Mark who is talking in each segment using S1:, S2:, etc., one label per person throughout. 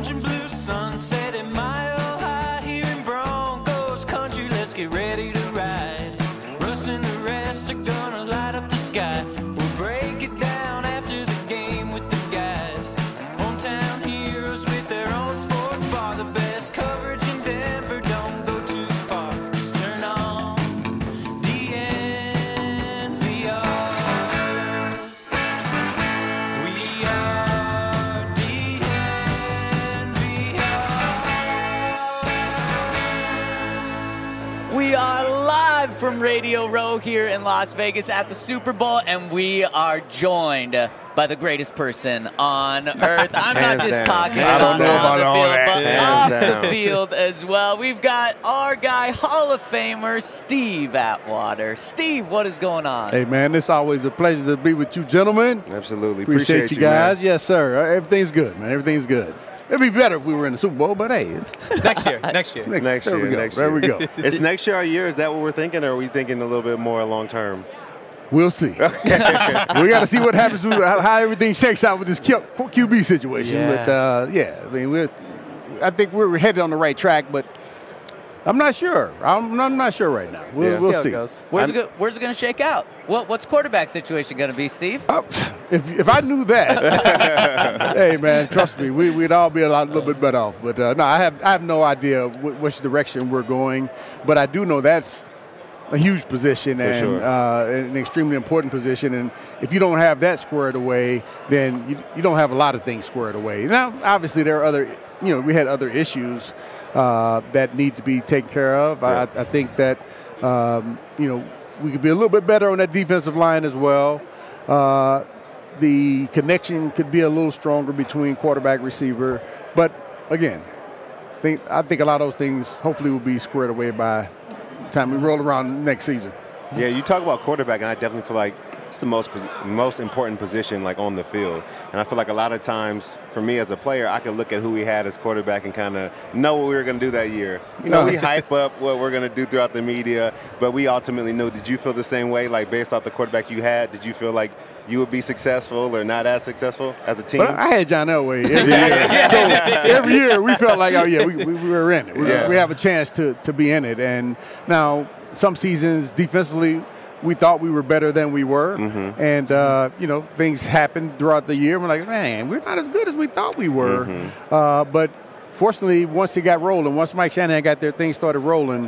S1: orange and blue sunset at Mile High here in Broncos country. Let's get ready to ride. Russ and the rest are gonna light up the sky. We'll break it down after the game with the guys. Hometown heroes with their own sports bar. The best coverage in Denver, don't go too far. Just turn on DNVR. We are DNVR.
S2: We are live from Radio Row here in Las Vegas at the Super Bowl, and we are joined by the greatest person on earth. I'm not just talking about on the field, but off the field as well. We've got our guy, Hall of Famer, Steve Atwater. Steve, what is going on?
S3: Hey, man, it's always a pleasure to be with you gentlemen.
S4: Absolutely.
S3: Appreciate you guys.
S4: Man.
S3: Yes, sir. Everything's good, man. Everything's good. It'd be better if we were in the Super Bowl, but hey.
S5: Next year.
S4: Next year.
S3: There we go.
S4: Is next year our year? Is that what we're thinking, or are we thinking a little bit more long term?
S3: We'll see. We got to see what happens, how everything shakes out with this QB situation.
S5: Yeah.
S3: But, I mean, I think we're headed on the right track, but I'm not sure. I'm not sure right now. We'll see.
S2: Where's it going to shake out? What's quarterback situation going to be, Steve?
S3: If I knew that, hey, man, trust me, we'd all be a little bit better off. But, no, I have no idea which direction we're going. But I do know that's a huge position and an extremely important position. And if you don't have that squared away, then you don't have a lot of things squared away. Now, obviously, there are other, we had other issues that need to be taken care of. Yeah. I think that, we could be a little bit better on that defensive line as well. The connection could be a little stronger between quarterback, receiver. But, again, I think a lot of those things hopefully will be squared away by the time we roll around next season.
S4: Yeah, you talk about quarterback, and I definitely feel like it's the most important position, like, on the field. And I feel like a lot of times, for me as a player, I could look at who we had as quarterback and kind of know what we were going to do that year. We hype up what we're going to do throughout the media, but we ultimately know. Did you feel the same way, like, based off the quarterback you had? Did you feel like you would be successful or not as successful as a team?
S3: Well, I had John Elway every year. So every year we felt like, we were in it. We have a chance to be in it. And now some seasons defensively we thought we were better than we were. Mm-hmm. And, things happened throughout the year. We're like, man, we're not as good as we thought we were. Mm-hmm. But fortunately, once it got rolling, once Mike Shanahan got there, things started rolling.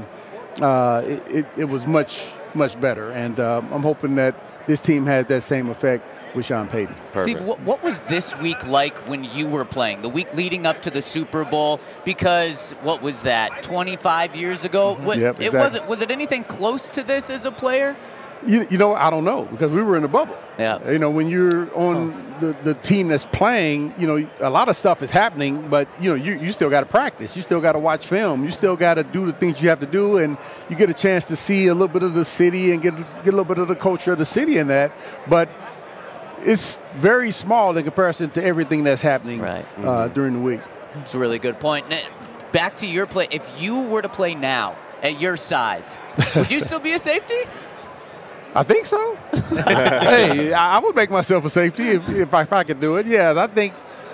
S3: It was much, much better. And I'm hoping that this team has that same effect with Sean Payton.
S2: Perfect. Steve, what was this week like when you were playing, the week leading up to the Super Bowl? Because what was that, 25 years ago?
S3: Yep, exactly.
S2: Was it anything close to this as a player?
S3: I don't know, because we were in a bubble.
S2: Yeah.
S3: When you're on the team that's playing, a lot of stuff is happening, but, you still got to practice. You still got to watch film. You still got to do the things you have to do, and you get a chance to see a little bit of the city and get a little bit of the culture of the city in that. But it's very small in comparison to everything that's happening during the week.
S2: It's a really good point. Back to your play. If you were to play now at your size, would you still be a safety?
S3: I think so. Hey, I would make myself a safety if I could do it. Yeah, I think,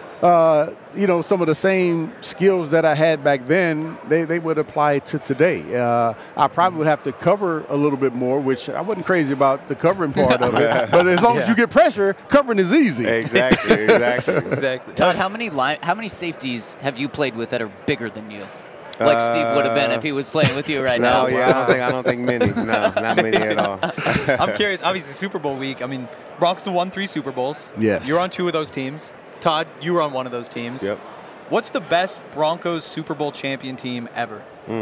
S3: some of the same skills that I had back then, they would apply to today. I probably would have to cover a little bit more, which I wasn't crazy about the covering part of it. But as long as you get pressure, covering is easy.
S4: Exactly.
S2: Todd, how many safeties have you played with that are bigger than you? Like Steve would have been if he was playing with you right now.
S4: No, I don't think many. No, not many at all.
S5: I'm curious. Obviously, Super Bowl week. I mean, Broncos have won 3 Super Bowls.
S3: Yes.
S5: You're on 2 of those teams. Todd, you were on one of those teams.
S4: Yep.
S5: What's the best Broncos Super Bowl champion team ever?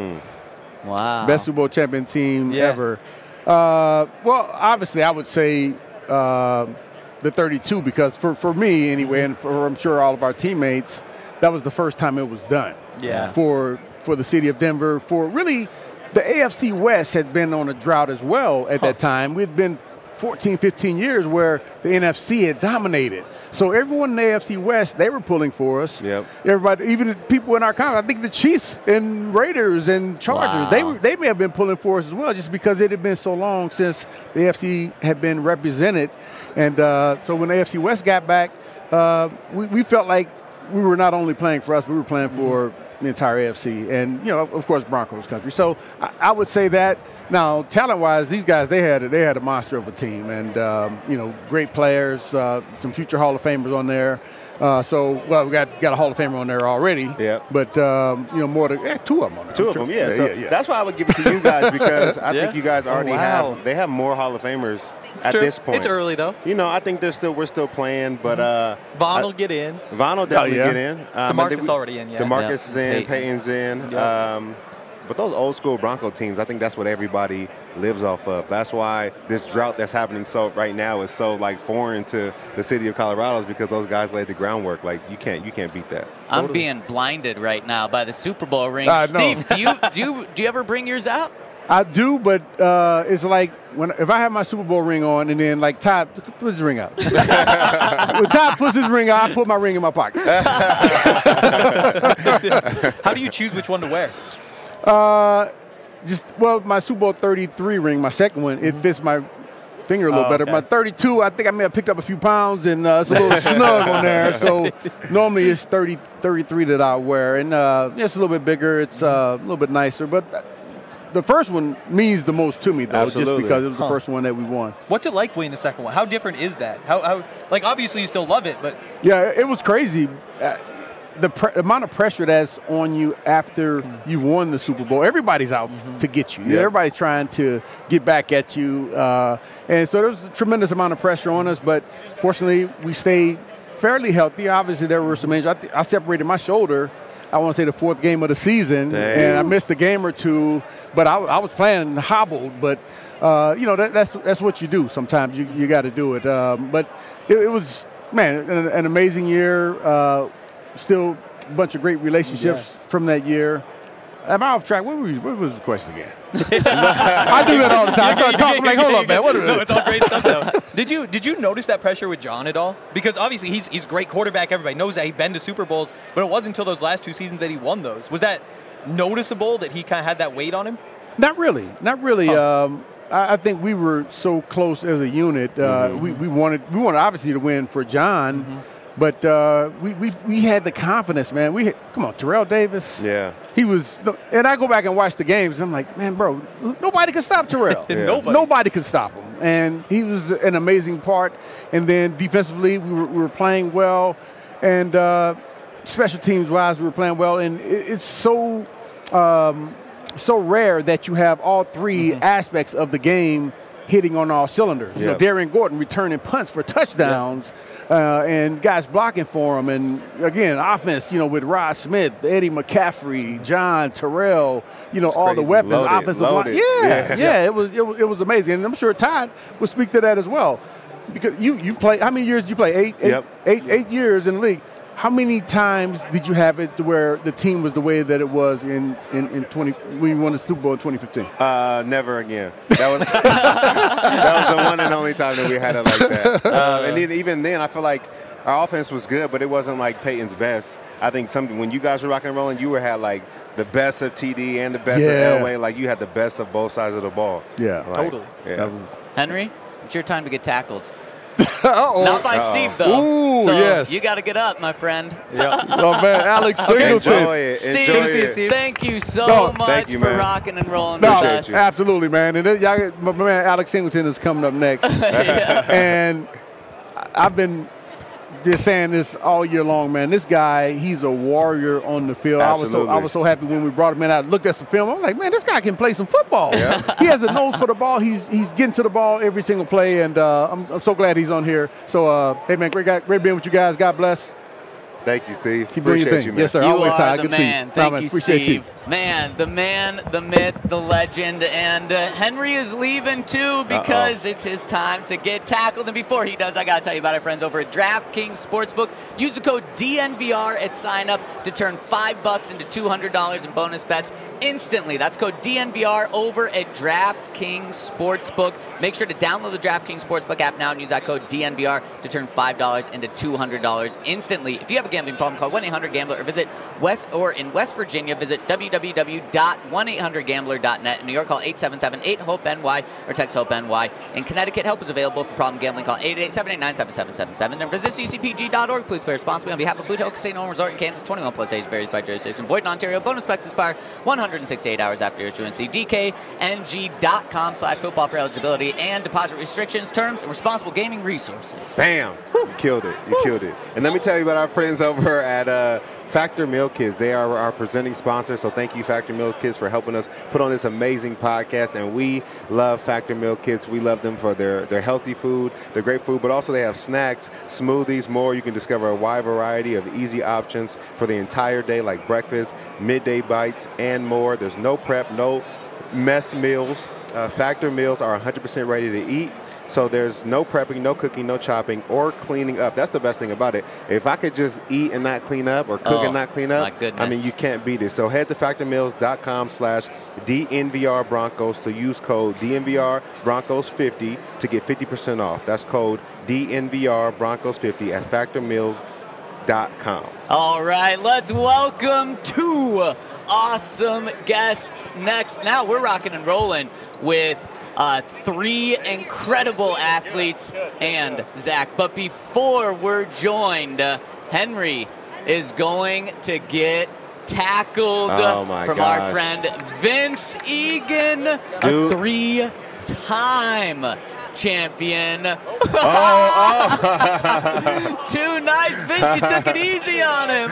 S2: Wow.
S3: Best Super Bowl champion team ever. Well, obviously, I would say the 32, because for me anyway, and for I'm sure all of our teammates, that was the first time it was done.
S5: Yeah.
S3: For the city of Denver, for really the AFC West had been on a drought as well at that time. We'd been 14, 15 years where the NFC had dominated. So everyone in the AFC West, they were pulling for us.
S4: Yep.
S3: Everybody, even the people in our conference, I think the Chiefs and Raiders and Chargers, they may have been pulling for us as well, just because it had been so long since the AFC had been represented. And so when the AFC West got back, we felt like we were not only playing for us, but we were playing for the entire AFC, and of course, Broncos country. So I would say that. Now, talent-wise, these guys they had a monster of a team, and great players, some future Hall of Famers on there. We got a Hall of Famer on there already.
S4: Yeah.
S3: But more to two of them on there.
S4: Two of them, yeah. So that's why I would give it to you guys, because I think you guys already have more Hall of Famers at this point.
S5: It's early though.
S4: I think we're still playing, but
S5: Von will get in.
S4: Von will definitely get in.
S5: DeMarcus already in. Yeah.
S4: DeMarcus is in. Peyton's in. Yep. But those old school Bronco teams, I think that's what everybody lives off of. That's why this drought that's happening right now is so foreign to the city of Colorado, is because those guys laid the groundwork. You can't beat that.
S2: I'm being blinded right now by the Super Bowl ring. Steve, do you ever bring yours out?
S3: I do, but it's like if I have my Super Bowl ring on, and then Todd puts his ring out. When Todd puts his ring out, I put my ring in my pocket.
S5: How do you choose which one to wear?
S3: My Super Bowl 33 ring, my second one, it fits my finger a little better. Okay. My 32, I think I may have picked up a few pounds, and it's a little snug on there. So normally it's 33 that I wear, and it's a little bit bigger. It's a little bit nicer, but the first one means the most to me, though, just because it was the first one that we won.
S5: What's it like winning the second one? How different is that? How obviously you still love it, but
S3: yeah, it was crazy. The amount of pressure that's on you after you've won the Super Bowl, everybody's out to get you. Yeah. Everybody's trying to get back at you. And so there's a tremendous amount of pressure on us, but fortunately we stayed fairly healthy. Obviously there were some injuries. I separated my shoulder, I want to say the fourth game of the season, and I missed a game or two, but I was playing hobbled. But, that's what you do sometimes. You got to do it. But it was, an amazing year. Still a bunch of great relationships from that year. Am I off track? What was the question again? I do that all the time. I start talking hold up, man.
S5: No, it's all great stuff, though. Did you notice that pressure with John at all? Because obviously he's a great quarterback. Everybody knows that. He's been to Super Bowls, but it wasn't until those last two seasons that he won those. Was that noticeable that he kind of had that weight on him?
S3: Not really. I think we were so close as a unit. We wanted obviously to win for John. Mm-hmm. But we had the confidence, man. Come on, Terrell Davis.
S4: Yeah.
S3: He was, and I go back and watch the games. And I'm like, man, bro, nobody can stop Terrell. Nobody can stop him. And he was an amazing part. And then defensively, we were playing well, and special teams wise, we were playing well. And it's so rare that you have all three aspects of the game hitting on all cylinders. Yep. Darian Gordon returning punts for touchdowns. Yep. And guys blocking for him. And, again, offense, with Rod Smith, Eddie McCaffrey, John, Terrell, all the weapons, offensive line. Yeah, it was amazing. And I'm sure Todd will speak to that as well. Because you played, how many years did you play? Eight years in the league. How many times did you have it to where the team was the way that it was in 20 when you won the Super Bowl in 2015?
S4: Never again. That was the one and only time that we had it like that. And then, even then, I feel like our offense was good, but it wasn't like Peyton's best. I think when you guys were rocking and rolling, you had the best of TD and the best of Elway. You had the best of both sides of the ball.
S3: Yeah,
S5: totally.
S4: Yeah.
S2: Henry, it's your time to get tackled.
S3: Uh-oh.
S2: Not by Steve, though.
S3: Ooh,
S2: so
S3: yes.
S2: You got to get up, my friend.
S3: Yeah. Oh, man, Alex Singleton.
S4: Enjoy it.
S2: Steve, thank you so much for rocking and rolling with us.
S3: Absolutely, man. And my man Alex Singleton is coming up next. And I've been just saying this all year long, man. This guy, he's a warrior on the field. I was so happy when we brought him in. I looked at some film. I'm like, man, this guy can play some football. Yeah. He has a nose for the ball. He's getting to the ball every single play, and I'm so glad he's on here. So, hey, man, great being with you guys. God bless.
S4: Thank you, Steve.
S3: Keep doing your thing.
S4: You, man.
S3: Yes, sir.
S2: You
S3: always
S2: are the
S3: good
S2: man.
S3: See
S2: Thank you,
S3: appreciate
S2: Steve.
S3: You.
S2: Man, the myth, the legend. And Henry is leaving, too, because it's his time to get tackled. And before he does, I got to tell you about our friends over at DraftKings Sportsbook. Use the code DNVR at sign-up to turn $5 into $200 in bonus bets instantly. That's code DNVR over at DraftKings Sportsbook. Make sure to download the DraftKings Sportsbook app now and use that code DNVR to turn $5 into $200 instantly. If you have a gambling problem, call 1-800-GAMBLER or in West Virginia, visit www.1800gambler.net. In New York, call 877-8-HOPE-NY or text HOPE-NY. In Connecticut, help is available for problem gambling. Call 888-789-7777. And visit ccpg.org. Please play responsibly on behalf of Blue Hill Casino and Resort in Kansas. 21 plus age varies by jurisdiction. Void in Ontario. Bonus packs expire 168 hours after issuance. See DKNG.com/football for eligibility and deposit restrictions, terms, and responsible gaming resources.
S4: Bam! You killed it. You killed it. And let me tell you about our friends over at Factor Meal Kits. They are our presenting sponsor, so thank you, Factor Meal Kits, for helping us put on this amazing podcast. And we love Factor Meal Kits. We love them for their healthy food, their great food, but also they have snacks, smoothies, more. You can discover a wide variety of easy options for the entire day, like breakfast, midday bites, and more. There's no prep, no mess meals. Factor meals are 100% ready to eat. So there's no prepping, no cooking, no chopping, or cleaning up. That's the best thing about it. If I could just eat and not clean up or cook and not clean up,
S2: my goodness.
S4: I mean, you can't beat it. So head to factormeals.com/DNVR Broncos to use code DNVR Broncos 50 to get 50% off. That's code DNVR Broncos 50 at factormeals.com.
S2: All right, let's welcome two awesome guests next. Now we're rocking and rolling with three incredible athletes and Zach. But before we're joined, Henry is going to get tackled from our friend Vince Egan, a three-time champion. Too nice, Vince. You took it easy on him.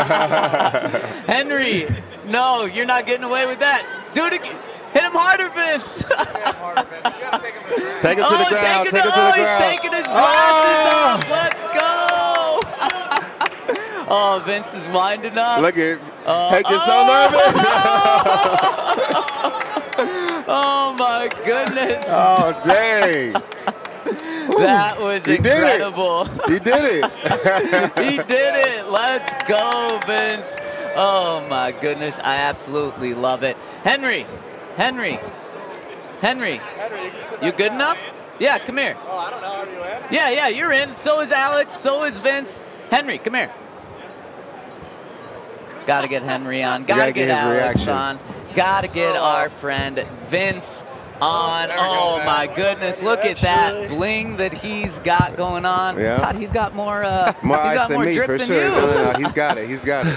S2: Henry, no, you're not getting away with that. Do it again. Hit him harder, Vince.
S4: Take him to the ground. Take him to the ground.
S2: He's taking his glasses off. Let's go. Oh, Vince is winding up.
S4: Look at Hank is so nervous.
S2: Oh, my goodness.
S4: Oh, dang.
S2: That was incredible.
S4: He did it.
S2: He did it. Let's go, Vince. Oh, my goodness. I absolutely love it. Henry, you good enough? Yeah, come here.
S6: Oh, I don't know. Are you in?
S2: Yeah, you're in. So is Alex. So is Vince. Henry, come here. Got to get Henry on. Got to get Alex on. Got to get our friend Vince on. Oh, my goodness. Look at that bling that he's got going on.
S4: Yeah.
S2: Todd, he's got more
S4: ice
S2: got
S4: than
S2: more
S4: me,
S2: drip
S4: for
S2: than
S4: sure.
S2: you.
S4: No, he's got it. He's got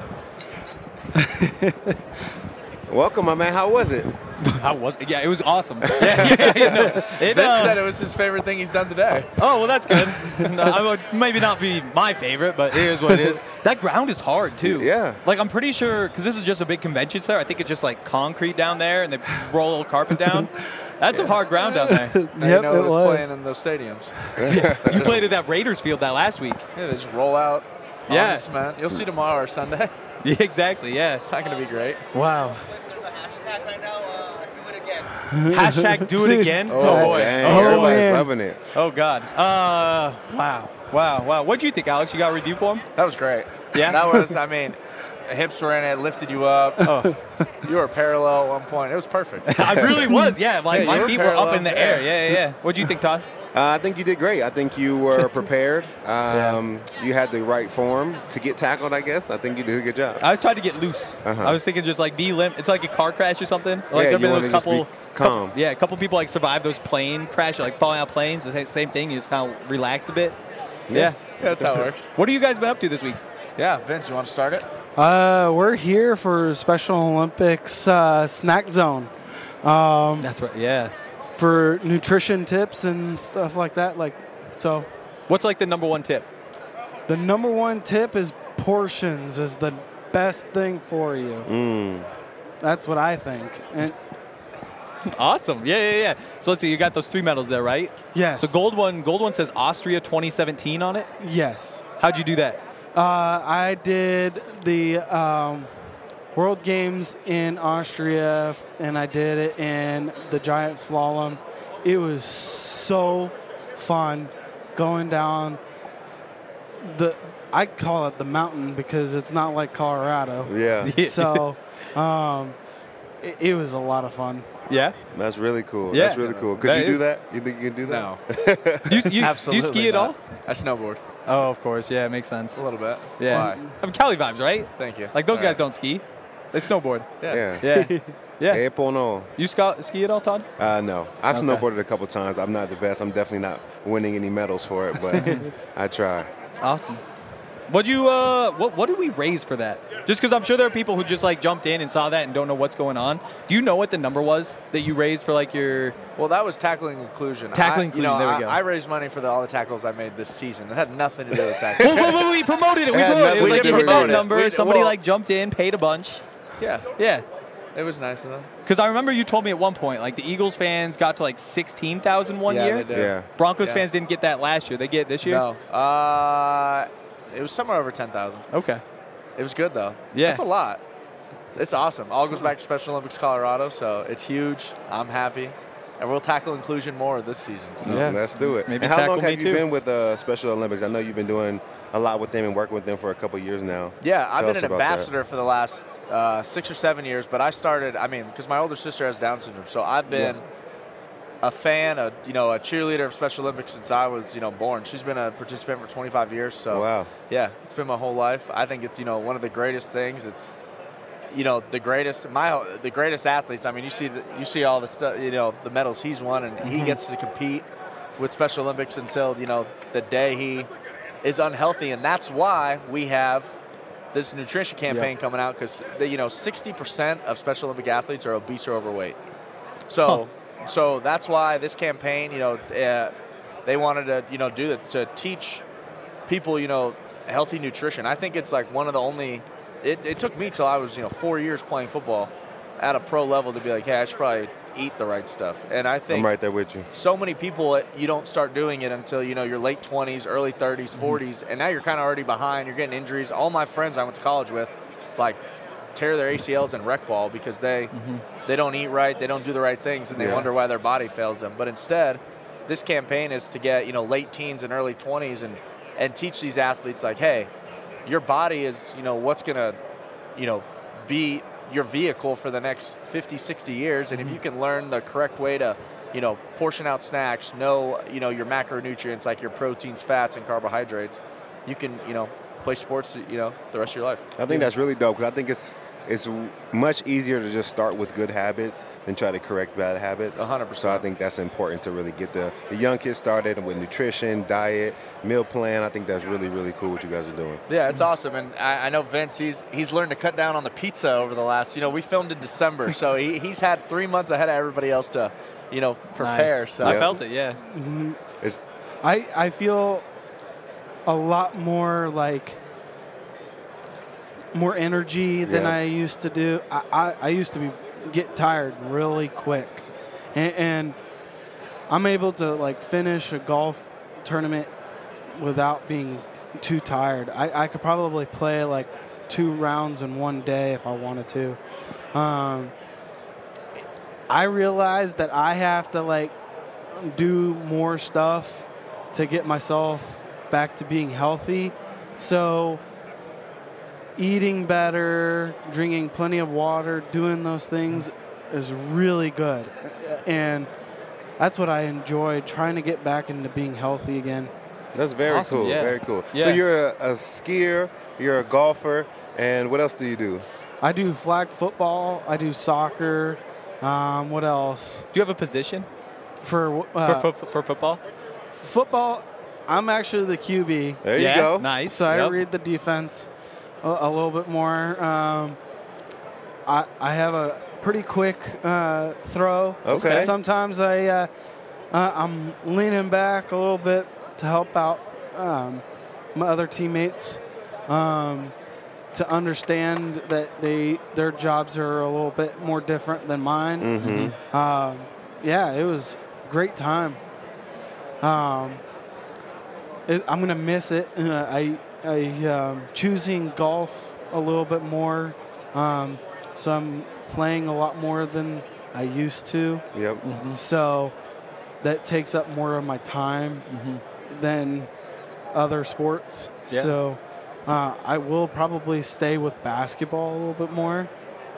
S4: it. Welcome, my man. How was it?
S5: Yeah, it was awesome. Vince
S6: said it was his favorite thing he's done today.
S5: Oh, well, that's good. I would maybe not be my favorite, but it is what it is. That ground is hard, too.
S4: Yeah.
S5: Like, I'm pretty sure, because this is just a big convention center, I think it's just, like, concrete down there, and they roll a little carpet down. That's some hard ground down there.
S6: Yep, it was playing in those stadiums.
S5: You played at that Raiders field that last week.
S6: Yeah, they just roll out on the cement. You'll see tomorrow or Sunday.
S5: Yeah, exactly, yeah.
S6: It's not going to be great.
S5: Wow.
S7: Hashtag right now, do it again.
S5: Hashtag do it again?
S4: Oh, boy. Dang, everybody's loving it.
S5: Oh, God. Wow. What'd you think, Alex? You got a review for him?
S6: That was great.
S5: Yeah?
S6: That was, I mean, hips were in it, lifted you up. Oh. You were parallel at one point. It was perfect.
S5: I really was, yeah. Like, my feet were up in the air.
S6: Yeah.
S5: Yeah. What'd you think, Todd?
S4: I think you did great. I think you were prepared. You had the right form to get tackled, I guess. I think you did a good job.
S5: I was trying to get loose. I was thinking just like be limp. It's like a car crash or something. Like
S4: yeah,
S5: there have been those couple
S4: calm.
S5: A couple people like survive those plane crashes, like falling out planes. The same thing. You just kind of relax a bit. Yeah,
S6: that's how it works.
S5: What have you guys been up to this week?
S6: Yeah, Vince, you want to start it?
S8: We're here for Special Olympics Snack Zone.
S5: That's right. Yeah.
S8: For nutrition tips and stuff like that. So.
S5: What's like the number one tip?
S8: The number one tip is portions is the best thing for you. That's what I think. And
S5: awesome. Yeah. So let's see. You got those 3 medals there, right?
S8: Yes.
S5: So gold one says Austria 2017 on it.
S8: Yes.
S5: How'd you do that?
S8: I did the World Games in Austria, and I did it in the giant slalom. It was so fun going down I call it the mountain because it's not like Colorado.
S4: Yeah.
S8: So it was a lot of fun.
S5: Yeah.
S4: That's really cool.
S5: Yeah.
S4: That's really cool. Could you do that? You think you can do that?
S6: No.
S5: Do you
S6: Absolutely
S5: ski at all?
S6: I snowboard
S5: Oh, of course. Yeah, it makes sense.
S6: a little bit.
S5: Yeah.
S6: Why?
S5: I mean, Cali vibes, right?
S6: Thank you.
S5: Like those
S6: All
S5: guys
S6: right.
S5: don't ski. They snowboard.
S4: Yeah.
S5: Yeah. Yeah.
S4: Hey, Pono.
S5: You ski at all, Todd?
S4: No. I've
S5: Okay.
S4: snowboarded a couple times. I'm not the best. I'm definitely not winning any medals for it, but I try.
S5: Awesome. What did we raise for that? Just because I'm sure there are people who just like jumped in and saw that and don't know what's going on. Do you know what the number was that you raised for like your?
S6: Well, that was tackling inclusion.
S5: Tackling inclusion, there we go.
S6: I raised money for all the tackles I made this season. It had nothing to do with tackling.
S5: Well, we promoted it. We
S4: Yeah,
S5: promoted it. It was
S4: we
S5: like
S4: did
S5: you hit that
S4: promote it.
S5: number.
S6: We-
S5: Somebody
S6: well-
S5: like jumped in, paid a bunch.
S6: Yeah,
S5: Yeah.
S6: it was nice of them.
S5: Because I remember you told me at one point, like the Eagles fans got to like 16,000 one
S6: Yeah,
S5: year.
S6: they did.
S4: Yeah.
S5: Broncos
S6: Yeah.
S5: fans didn't get that last year. They get it this year.
S6: No, it was somewhere over 10,000.
S5: Okay.
S6: It was good though.
S5: Yeah.
S6: That's a lot. It's awesome. All goes back to Special Olympics Colorado, so it's huge. I'm happy. And we'll tackle inclusion more this season. So.
S5: Yeah.
S4: Let's do it.
S5: Maybe
S4: and how
S5: tackle
S4: long
S5: me
S4: have you
S5: too.
S4: been with Special Olympics? I know you've been doing a lot with them and working with them for a couple years now.
S6: Yeah, I've
S4: Tell
S6: been
S4: us
S6: an
S4: about that.
S6: ambassador for the last 6 or 7 years, but I started, because my older sister has Down syndrome, so I've been a fan, a cheerleader of Special Olympics since I was, born. She's been a participant for 25 years, so
S4: Wow.
S6: yeah, it's been my whole life. I think it's, one of the greatest things. It's, the greatest athletes. I mean, you see all the stuff, the medals he's won, and he gets to compete with Special Olympics until, the day he is unhealthy, and that's why we have this nutrition campaign coming out, because 60% of Special Olympic athletes are obese or overweight. So that's why this campaign, they wanted to do that, to teach people healthy nutrition. I think it's like one of the only. It took me till I was 4 years playing football at a pro level to be like, hey, I should probably eat the right stuff. And I think
S4: I'm right there with you.
S6: so many people, you don't start doing it until your late 20s, early 30s, 40s, and now you're kind of already behind. You're getting injuries. All my friends I went to college with, like, tear their ACLs in rec ball because they don't eat right, they don't do the right things, and they wonder why their body fails them. But instead, this campaign is to get late teens and early 20s and teach these athletes, like, hey, your body is what's gonna be your vehicle for the next 50, 60 years, and if you can learn the correct way to portion out snacks, know your macronutrients like your proteins, fats, and carbohydrates, you can play sports the rest of your life.
S4: I think that's really dope, because I think it's much easier to just start with good habits than try to correct bad habits.
S6: 100%.
S4: So I think that's important to really get the young kids started with nutrition, diet, meal plan. I think that's really, really cool what you guys are doing.
S6: Yeah, it's awesome, and I know Vince. He's learned to cut down on the pizza over the last. We filmed in December, so he's had 3 months ahead of everybody else to, prepare.
S5: Nice.
S6: So
S5: I felt it. Yeah.
S4: It's
S8: I feel a lot more like more energy than I used to do. I used to get tired really quick, and I'm able to like finish a golf tournament without being too tired. I could probably play like 2 rounds in one day if I wanted to. I realized that I have to like do more stuff to get myself back to being healthy. So eating better, drinking plenty of water, doing those things is really good. And that's what I enjoy, trying to get back into being healthy again.
S4: That's very
S5: Awesome,
S4: cool.
S5: yeah.
S4: Very cool.
S5: Yeah.
S4: So you're a skier, you're a golfer, and what else do you do?
S8: I do flag football, I do soccer. What else?
S5: Do you have a position
S8: For
S5: for football?
S8: football, I'm actually the QB.
S4: There you go.
S5: Nice.
S8: So I
S5: Yep.
S8: read the defense a little bit more. I have a pretty quick throw.
S4: Okay.
S8: Sometimes I'm leaning back a little bit to help out my other teammates to understand that their jobs are a little bit more different than mine.
S4: Mm-hmm.
S8: Yeah, it was a great time. I'm gonna miss it. I choosing golf a little bit more, so I'm playing a lot more than I used to.
S4: Yep.
S8: So that takes up more of my time than other sports.
S5: Yeah.
S8: So I will probably stay with basketball a little bit more.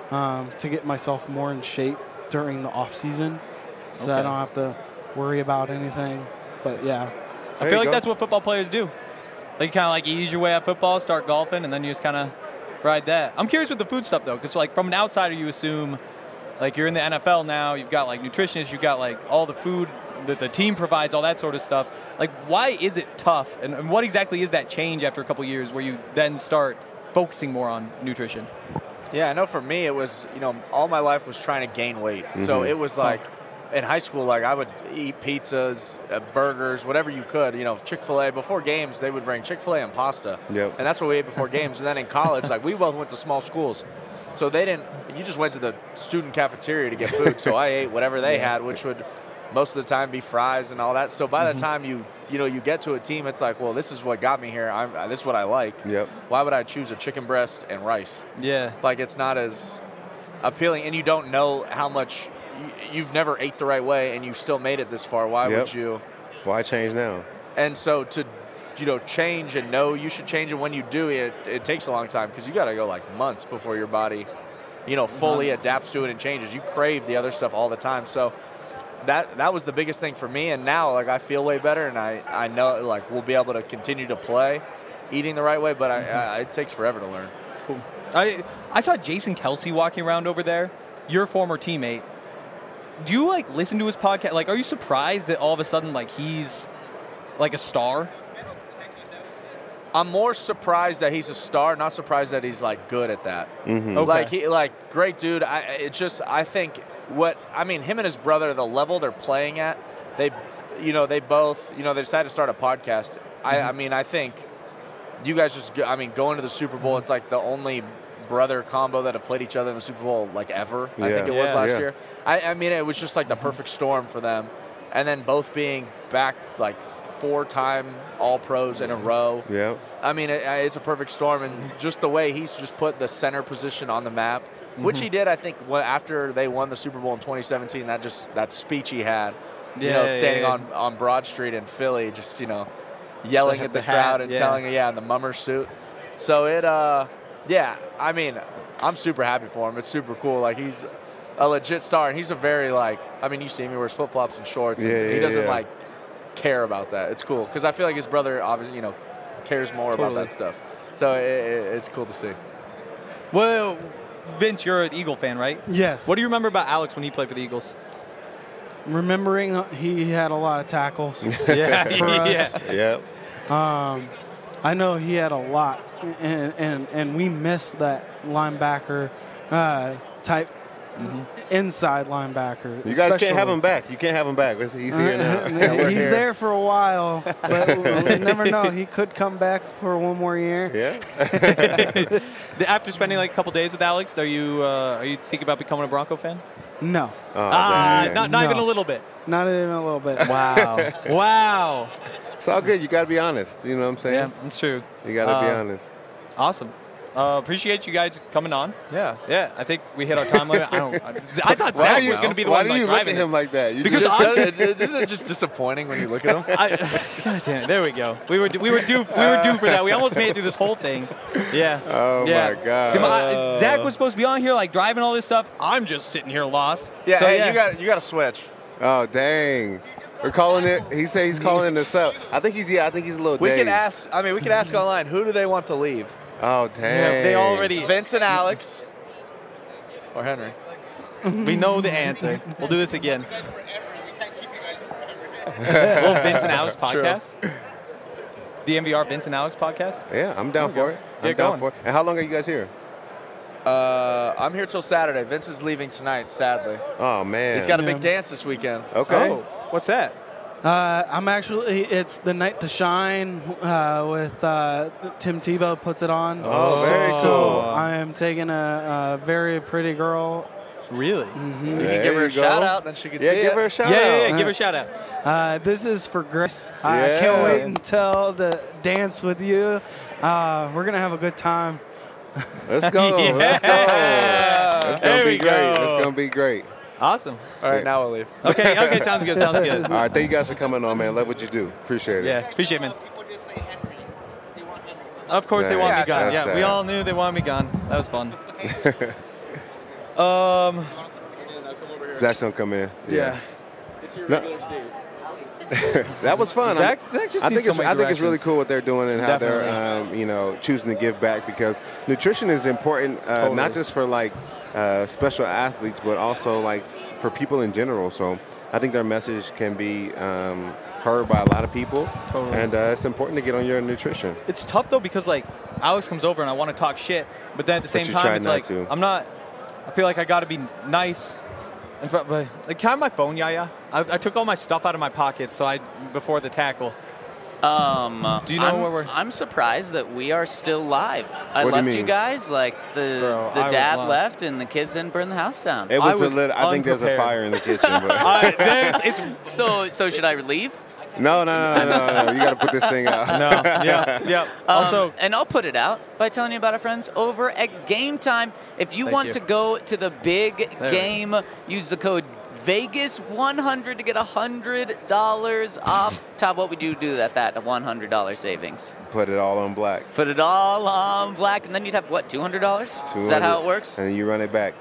S8: to get myself more in shape during the off season, so I
S5: Okay.
S8: don't have to worry about anything. But yeah,
S5: I feel like that's what football players do. Like, you kind of like ease your way at football, start golfing, and then you just kind of ride that. I'm curious with the food stuff, though, because, like, from an outsider, you assume, like, you're in the NFL now, you've got, like, nutritionists, you've got, like, all the food that the team provides, all that sort of stuff. Like, why is it tough? And what exactly is that change after a couple years where you then start focusing more on nutrition?
S6: Yeah, I know for me it was, all my life was trying to gain weight. So it was like, in high school, like I would eat pizzas, burgers, whatever you could. Chick-fil-A. Before games, they would bring Chick-fil-A and pasta.
S4: Yep.
S6: And that's what we ate before games. And then in college, like we both went to small schools. So you just went to the student cafeteria to get food. So I ate whatever they had, which would most of the time be fries and all that. So by the time you get to a team, it's like, well, this is what got me here. This is what I like.
S4: Yep.
S6: Why would I choose a chicken breast and rice?
S5: Yeah.
S6: Like, it's not as appealing, and you don't know how much you've never ate the right way, and you still made it this far. Why would you?
S4: Why change now?
S6: And so to change and know you should change, and when you do it takes a long time, because you got to go like months before your body fully adapts to it and changes. You crave the other stuff all the time. So that was the biggest thing for me, and now like I feel way better, and I know like we'll be able to continue to play eating the right way, but it takes forever to learn.
S5: Cool. I saw Jason Kelsey walking around over there, your former teammate. Do you like listen to his podcast? Like, are you surprised that all of a sudden like he's like a star?
S6: I'm more surprised that he's a star, not surprised that he's like good at that.
S5: Okay.
S6: Like great dude. I think him and his brother, the level they're playing at, they both they decided to start a podcast. I think you guys going to the Super Bowl, it's like the only brother combo that have played each other in the Super Bowl like ever. I think it was last year. It was just like the perfect storm for them, and then both being back like 4-time All-Pros in a row.
S4: Yeah.
S6: It's a perfect storm, and just the way he's just put the center position on the map, which he did, I think, after they won the Super Bowl in 2017. That speech he had, standing on Broad Street in Philly, just yelling at the crowd and telling in the mummer suit. So I'm super happy for him. It's super cool. Like, he's a legit star, and he's a very you see him, he wears flip-flops and shorts, and he doesn't care about that. It's cool because I feel like his brother obviously cares more about that stuff. So it's cool to see.
S5: Well, Vince, you're an Eagle fan, right?
S8: yes.
S5: What do you remember about Alex when he played for the Eagles?
S8: Remembering he had a lot of tackles
S5: Yeah.
S8: for us.
S4: Yep.
S8: I know he had a lot, and we missed that linebacker type inside linebacker.
S4: You guys can't have him back. You can't have him back. He's here now.
S8: He's there for a while, but we never know. He could come back for one more year.
S4: Yeah.
S5: After spending like a couple days with Alex, are you thinking about becoming a Bronco fan?
S8: No.
S5: Not even
S8: No.
S5: a little bit.
S8: Not even a little bit.
S5: Wow. Wow.
S4: It's all good. You got to be honest. You know what I'm saying?
S5: Yeah, that's true.
S4: You got to be honest.
S5: Awesome. Appreciate you guys coming on.
S6: Yeah.
S5: Yeah, I think we hit our time limit. I thought
S4: Why
S5: Zach
S4: do you-
S5: was going to be the
S4: why
S5: one
S4: do you look at
S5: driving
S4: him like that? You
S5: Because
S4: just-
S6: Isn't it just disappointing when you look at him?
S5: God damn it! There we go. We were due for that. We almost made it through this whole thing. Yeah.
S4: Oh,
S5: yeah.
S4: my God.
S5: See, Zach was supposed to be on here, like driving all this stuff. I'm just sitting here lost.
S6: Yeah,
S5: So,
S6: hey, you got to switch.
S4: Oh, dang. We're calling it. He said he's calling it a sub. I think he's a little
S6: We
S4: dazed.
S6: can ask. We can ask online. Who do they want to leave?
S4: Oh, dang.
S5: They already.
S6: Vince and Alex, or Henry?
S5: We know the answer. We'll do this again.
S7: We can't keep you guys forever.
S5: Little Vince and Alex podcast. DMVR Vince and Alex podcast.
S4: Yeah, I'm down for it. I'm
S5: Get
S4: down
S5: going.
S4: for it. And how long are you guys here?
S6: I'm here till Saturday. Vince is leaving tonight, sadly.
S4: Oh, man.
S6: He's got a big dance this weekend.
S4: Okay.
S5: Oh, what's that?
S8: It's the night to shine with Tim Tebow puts it on.
S4: Oh, very
S8: So
S4: cool.
S8: I am taking a very pretty girl.
S5: Really?
S6: We can
S4: There
S6: give her
S4: you
S6: a shout
S4: go.
S6: out, then she can
S4: Yeah,
S6: see
S4: give
S6: it.
S4: her a shout
S5: Yeah,
S4: out.
S5: yeah, yeah. Give her a shout out.
S8: This is for Grace. I
S4: Yeah.
S8: can't wait until the dance with you. We're gonna have a good time.
S4: Let's go.
S5: Yeah.
S4: Let's go. That's
S5: There
S4: going to
S5: we
S4: be great.
S5: go.
S4: That's going to be great.
S5: Awesome.
S6: All right, now we'll leave.
S5: Okay, sounds good. Sounds good.
S4: All right. Thank you guys for coming on, man. Love what you do. Appreciate it.
S5: Yeah, appreciate it, man.
S7: People did say Henry. They want Henry.
S5: Of course they
S4: Yeah,
S5: want me gone.
S4: that's
S5: Yeah, we
S4: sad.
S5: all knew they wanted me gone. That was fun.
S4: Zach's gonna come in.
S5: Yeah.
S6: It's your
S4: No.
S6: regular seat.
S4: That was fun.
S5: Zach just
S4: I
S5: needs
S4: think
S5: so many
S4: I think it's really
S5: directions.
S4: cool what they're doing and how they're choosing to give back, because nutrition is important not just for like special athletes, but also like for people in general. So I think their message can be heard by a lot of people, and it's important to get on your nutrition.
S5: It's tough though, because like Alex comes over and I want to talk shit, but then at the same
S4: you try
S5: time it's
S4: not
S5: like
S4: to.
S5: I'm not. I feel like I got to be nice. In front, but like, can I have my phone, Yaya? I took all my stuff out of my pocket, so before the tackle. Do you know where we're?
S2: I'm surprised that we are still live. I
S4: What do you
S2: left you
S4: mean?
S2: guys like the
S5: Bro, I was
S2: dad
S5: lost.
S2: left and the kids didn't burn the house down.
S4: It was,
S5: was
S4: a little. I think there's a
S5: unprepared.
S4: fire in the kitchen, but
S5: It's
S2: So should I leave?
S4: no. You got to put this thing out.
S5: no, yeah. Also,
S2: And I'll put it out by telling you about our friends over at Game Time. If you
S5: Thank
S2: want
S5: you.
S2: to go to the big
S5: we
S2: game, use the code Vegas100 to get $100 off. Todd, what would you do at that $100 savings?
S4: Put it all on black.
S2: Put it all on black, and then you'd have, what, $200? Is that how it works?
S4: And you run it back.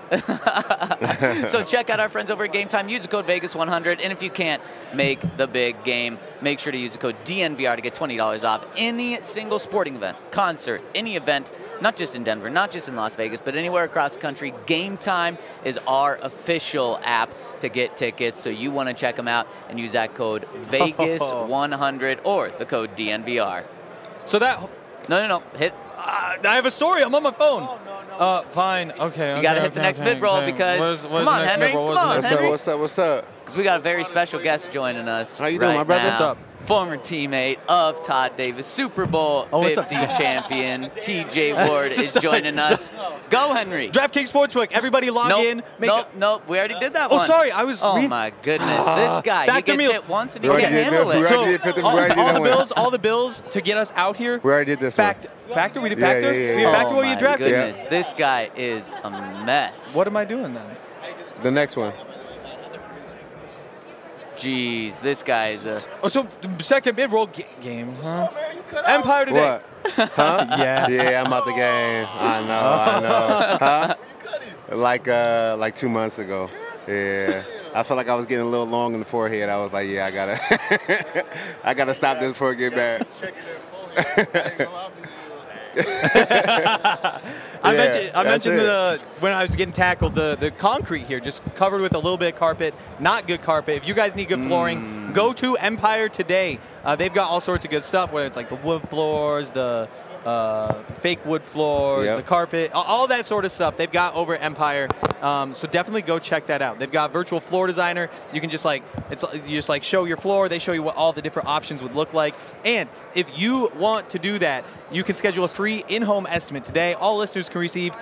S2: So check out our friends over at Game Time. Use the code Vegas100, and if you can't make the big game, make sure to use the code DNVR to get $20 off any single sporting event, concert, any event, not just in Denver, not just in Las Vegas, but anywhere across the country. Game Time is our official app to get tickets, so you want to check them out and use that code Vegas100 or the code DNVR.
S5: so that
S2: No. Hit.
S5: I have a story. I'm on my phone. Fine. Okay.
S2: You got to hit the next mid-roll because, come on, Henry. Come on, Henry.
S4: What's up?
S2: Because we got a very special guest joining us.
S4: How you doing,
S2: right
S4: my brother?
S2: now.
S4: What's up?
S2: Former teammate of Todd Davis, Super Bowl
S5: what's up?
S2: 50 champion, TJ Ward is joining us. Go, Henry.
S5: DraftKings Sportsbook. Everybody log in.
S2: Nope. We already did that
S5: Oh,
S2: one.
S5: sorry. I was.
S2: Oh, my goodness. This guy, he
S5: Factor
S2: gets
S5: meals.
S2: hit once and he
S4: We
S2: can't
S4: already did
S2: handle
S4: that.
S2: it.
S4: We already did that one.
S5: all the bills to get us out here.
S4: We already did this one.
S5: Factor. We did
S4: Yeah,
S5: Factor.
S4: yeah.
S5: We did Factor
S2: Oh,
S5: while you
S2: my
S5: drafted.
S2: goodness. This guy is a mess.
S5: What am I doing then?
S4: The next one.
S2: Jeez, this guy is a...
S5: Oh, so second mid-roll game. Huh? Empire today.
S4: What? Huh?
S5: Yeah.
S4: Yeah, I'm out the game. I know. Huh? Like 2 months ago. Yeah. I felt like I was getting a little long in the forehead. I was like, yeah, I gotta stop this before it get bad.
S5: I
S4: that's
S5: mentioned
S4: it.
S5: when I was getting tackled, the concrete here just covered with a little bit of carpet, not good carpet. If you guys need good flooring, go to Empire today. They've got all sorts of good stuff, whether it's like the wood floors, the fake wood floors,
S4: Yep.
S5: the carpet, all that sort of stuff they've got over at Empire. So definitely go check that out. They've got virtual floor designer. You can just show your floor. They show you what all the different options would look like. And if you want to do that, you can schedule a free in-home estimate today. All listeners can receive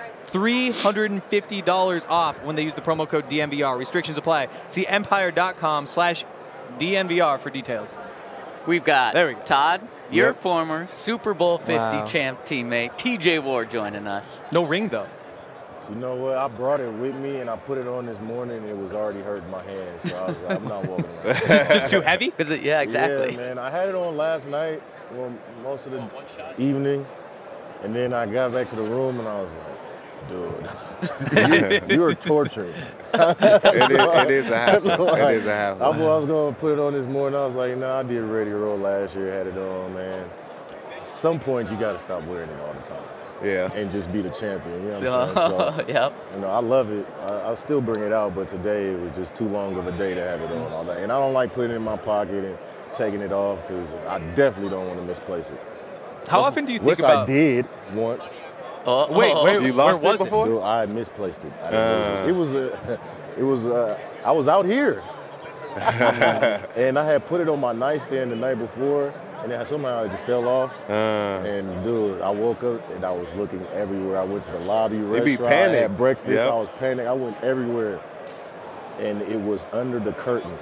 S5: $350 off when they use the promo code DNVR. Restrictions apply. See empire.com/DNVR for details.
S2: We've got
S5: There we go.
S2: Todd, your
S4: Yep.
S2: former Super Bowl 50
S5: Wow.
S2: champ teammate, TJ Ward joining us.
S5: No ring, though.
S9: You know what? I brought it with me and I put it on this morning. And it was already hurting my hands, so I was like, I'm not walking around.
S5: Just too heavy?
S2: Yeah, exactly.
S9: Yeah, man. I had it on last night, well, most of the evening, and then I got back to the room and I was like, dude, you are tortured.
S4: It is a hassle.
S9: Like,
S4: It is a hassle.
S9: I was going to put it on this morning. I was like, no, I did Radio Row last year, had it on, man. At some point, you got to stop wearing it all the time
S4: Yeah.
S9: and just be the champion. You know what I'm saying? So,
S2: Yep.
S9: you know, I love it. I still bring it out, but today it was just too long of a day to have it on all day. And I don't like putting it in my pocket and taking it off because I definitely don't want to misplace it.
S5: How often do you think
S9: Which
S5: about...
S9: I did once.
S5: Wait,
S4: You lost
S5: where
S4: it
S5: was
S4: before?
S9: Dude, I misplaced it. I didn't lose it. I was out here. And I had put it on my nightstand the night before, and then somehow it just fell off. And dude, I woke up and I was looking everywhere. I went to the lobby restaurant,
S4: be panicked.
S9: I had breakfast,
S4: Yep.
S9: I was panicked. I went everywhere. And it was under the curtain.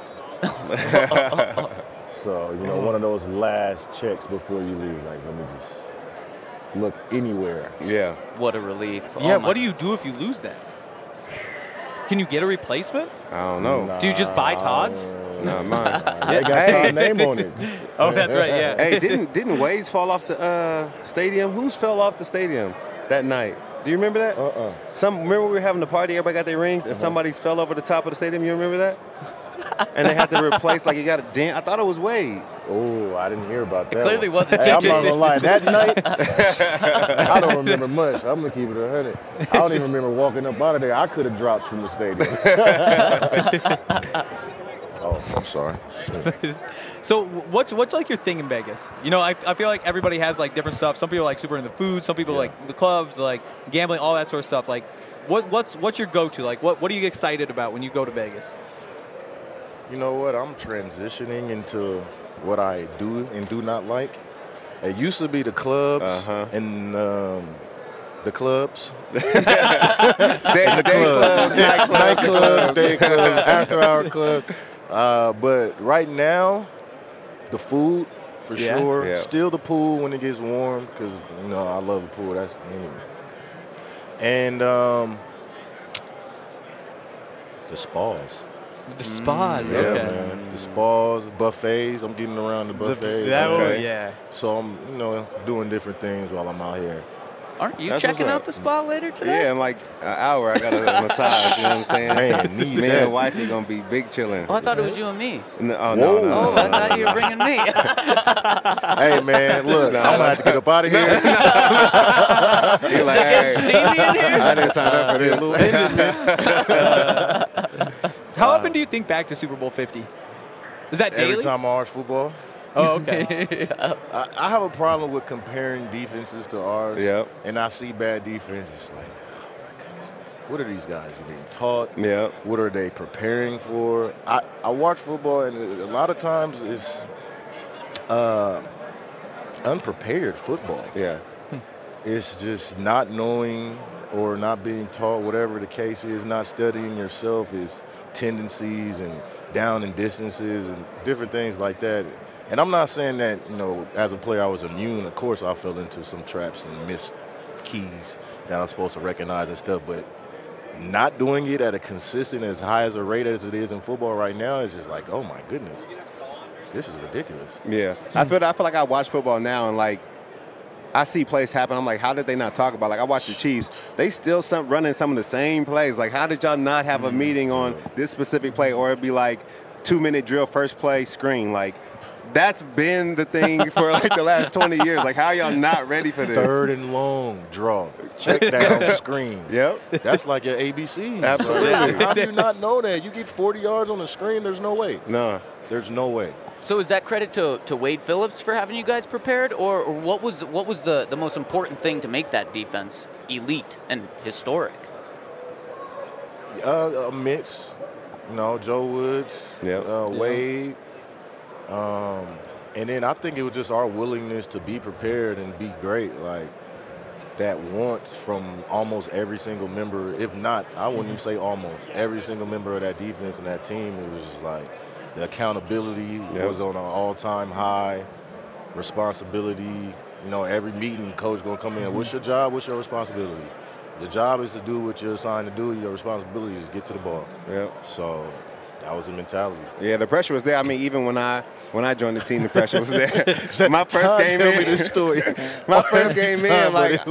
S9: So, you know, one of those last checks before you leave. Like, let me just look anywhere.
S4: Yeah.
S2: What a relief.
S5: Yeah,
S2: Oh my-
S5: what do you do if you lose that? Can you get a replacement?
S4: I don't know.
S5: Do you just buy Todd's?
S4: Not mine.
S9: They got
S4: Hey.
S9: my name on it.
S5: Oh, that's right, yeah.
S4: Hey, didn't Wade's fall off the stadium? Who's fell off the stadium that night? Do you remember that? Remember we were having the party, everybody got their rings, and
S9: Uh-huh.
S4: somebody fell over the top of the stadium. You remember that? And they had to replace, like, you got a dent. I thought it was Wade.
S9: Oh, I didn't hear about that.
S2: clearly
S9: one.
S2: wasn't
S9: Hey, I'm
S2: TJ.
S9: not gonna lie. That night, I don't remember much. I'm gonna keep it 100. I don't even remember walking up out of there. I could have dropped from the stadium. Oh, I'm sorry.
S5: So what's like your thing in Vegas? You know, I feel like everybody has like different stuff. Some people are like super into food. Some people like the clubs, like gambling, all that sort of stuff. Like, what's your go-to? Like, what are you excited about when you go to Vegas?
S9: You know what? I'm transitioning into what I do and do not like. It used to be the clubs and the clubs. Nightclubs, day clubs, after-hour clubs. But right now, the food for sure.
S4: Yeah.
S9: Still the pool when it gets warm because I love the pool. That's and the spas.
S5: The spas,
S9: Yeah,
S5: okay.
S9: man. The spas, buffets. I'm getting around the buffets.
S5: Yeah.
S9: So I'm, doing different things while I'm out here.
S2: Aren't you
S4: That's
S2: checking
S4: what's
S2: out
S4: up.
S2: the spa later today?
S4: Yeah, in like an hour, I got a massage. You know what I'm saying?
S9: Man, need
S4: Me
S9: that.
S4: and wifey gonna be big chilling.
S2: Oh, I thought it was you and me.
S4: No,
S2: Oh,
S4: no.
S2: I thought you were bringing me.
S9: Hey, man, look, I'm going to have to get up out of here.
S4: He like,
S2: Getting steamy in here?
S4: I didn't sign up for this.
S5: How often do you think back to Super Bowl 50? Is that daily?
S9: Every time I watch football.
S5: Oh, okay.
S9: I have a problem with comparing defenses to ours.
S4: Yep.
S9: And I see bad defense. It's like, oh, my goodness. What are these guys being taught?
S4: Yep.
S9: What are they preparing for? I watch football, and a lot of times it's unprepared football.
S4: Yeah.
S9: It's just not knowing or not being taught, whatever the case is, not studying yourself, is tendencies and down and distances and different things like that. And I'm not saying that, as a player I was immune. Of course I fell into some traps and missed keys that I'm supposed to recognize and stuff, but not doing it at a consistent, as high as a rate as it is in football right now is just like, oh my goodness, this is ridiculous.
S4: Yeah. I feel like I watch football now and like I see plays happen. I'm like, how did they not talk about? Like I watch the Chiefs. They still running some of the same plays. Like how did y'all not have a meeting on this specific play, or it'd be like 2-minute drill, first play, screen. Like that's been the thing for like the last 20 years. Like how y'all not ready for this?
S9: Third and long, draw, check down, screen.
S4: Yep.
S9: That's like your ABCs.
S4: Absolutely.
S9: Like, how do you not know that? You get 40 yards on the screen, there's no way.
S4: No.
S9: There's no way.
S2: So is that credit to Wade Phillips for having you guys prepared, or what was the most important thing to make that defense elite and historic?
S9: A mix. Joe Woods, Wade. And then I think it was just our willingness to be prepared and be great. Like that wants from almost every single member, if not, I wouldn't even say almost, every single member of that defense and that team. It was just like the accountability was on an all-time high, responsibility. Every meeting, coach going to come in, what's your job, what's your responsibility? Your job is to do what you're assigned to do. Your responsibility is to get to the ball.
S4: Yep.
S9: So that was the mentality.
S4: Yeah, the pressure was there. I mean, even when I joined the team, the pressure was there. My first game in,
S9: this story.
S4: My first game in, like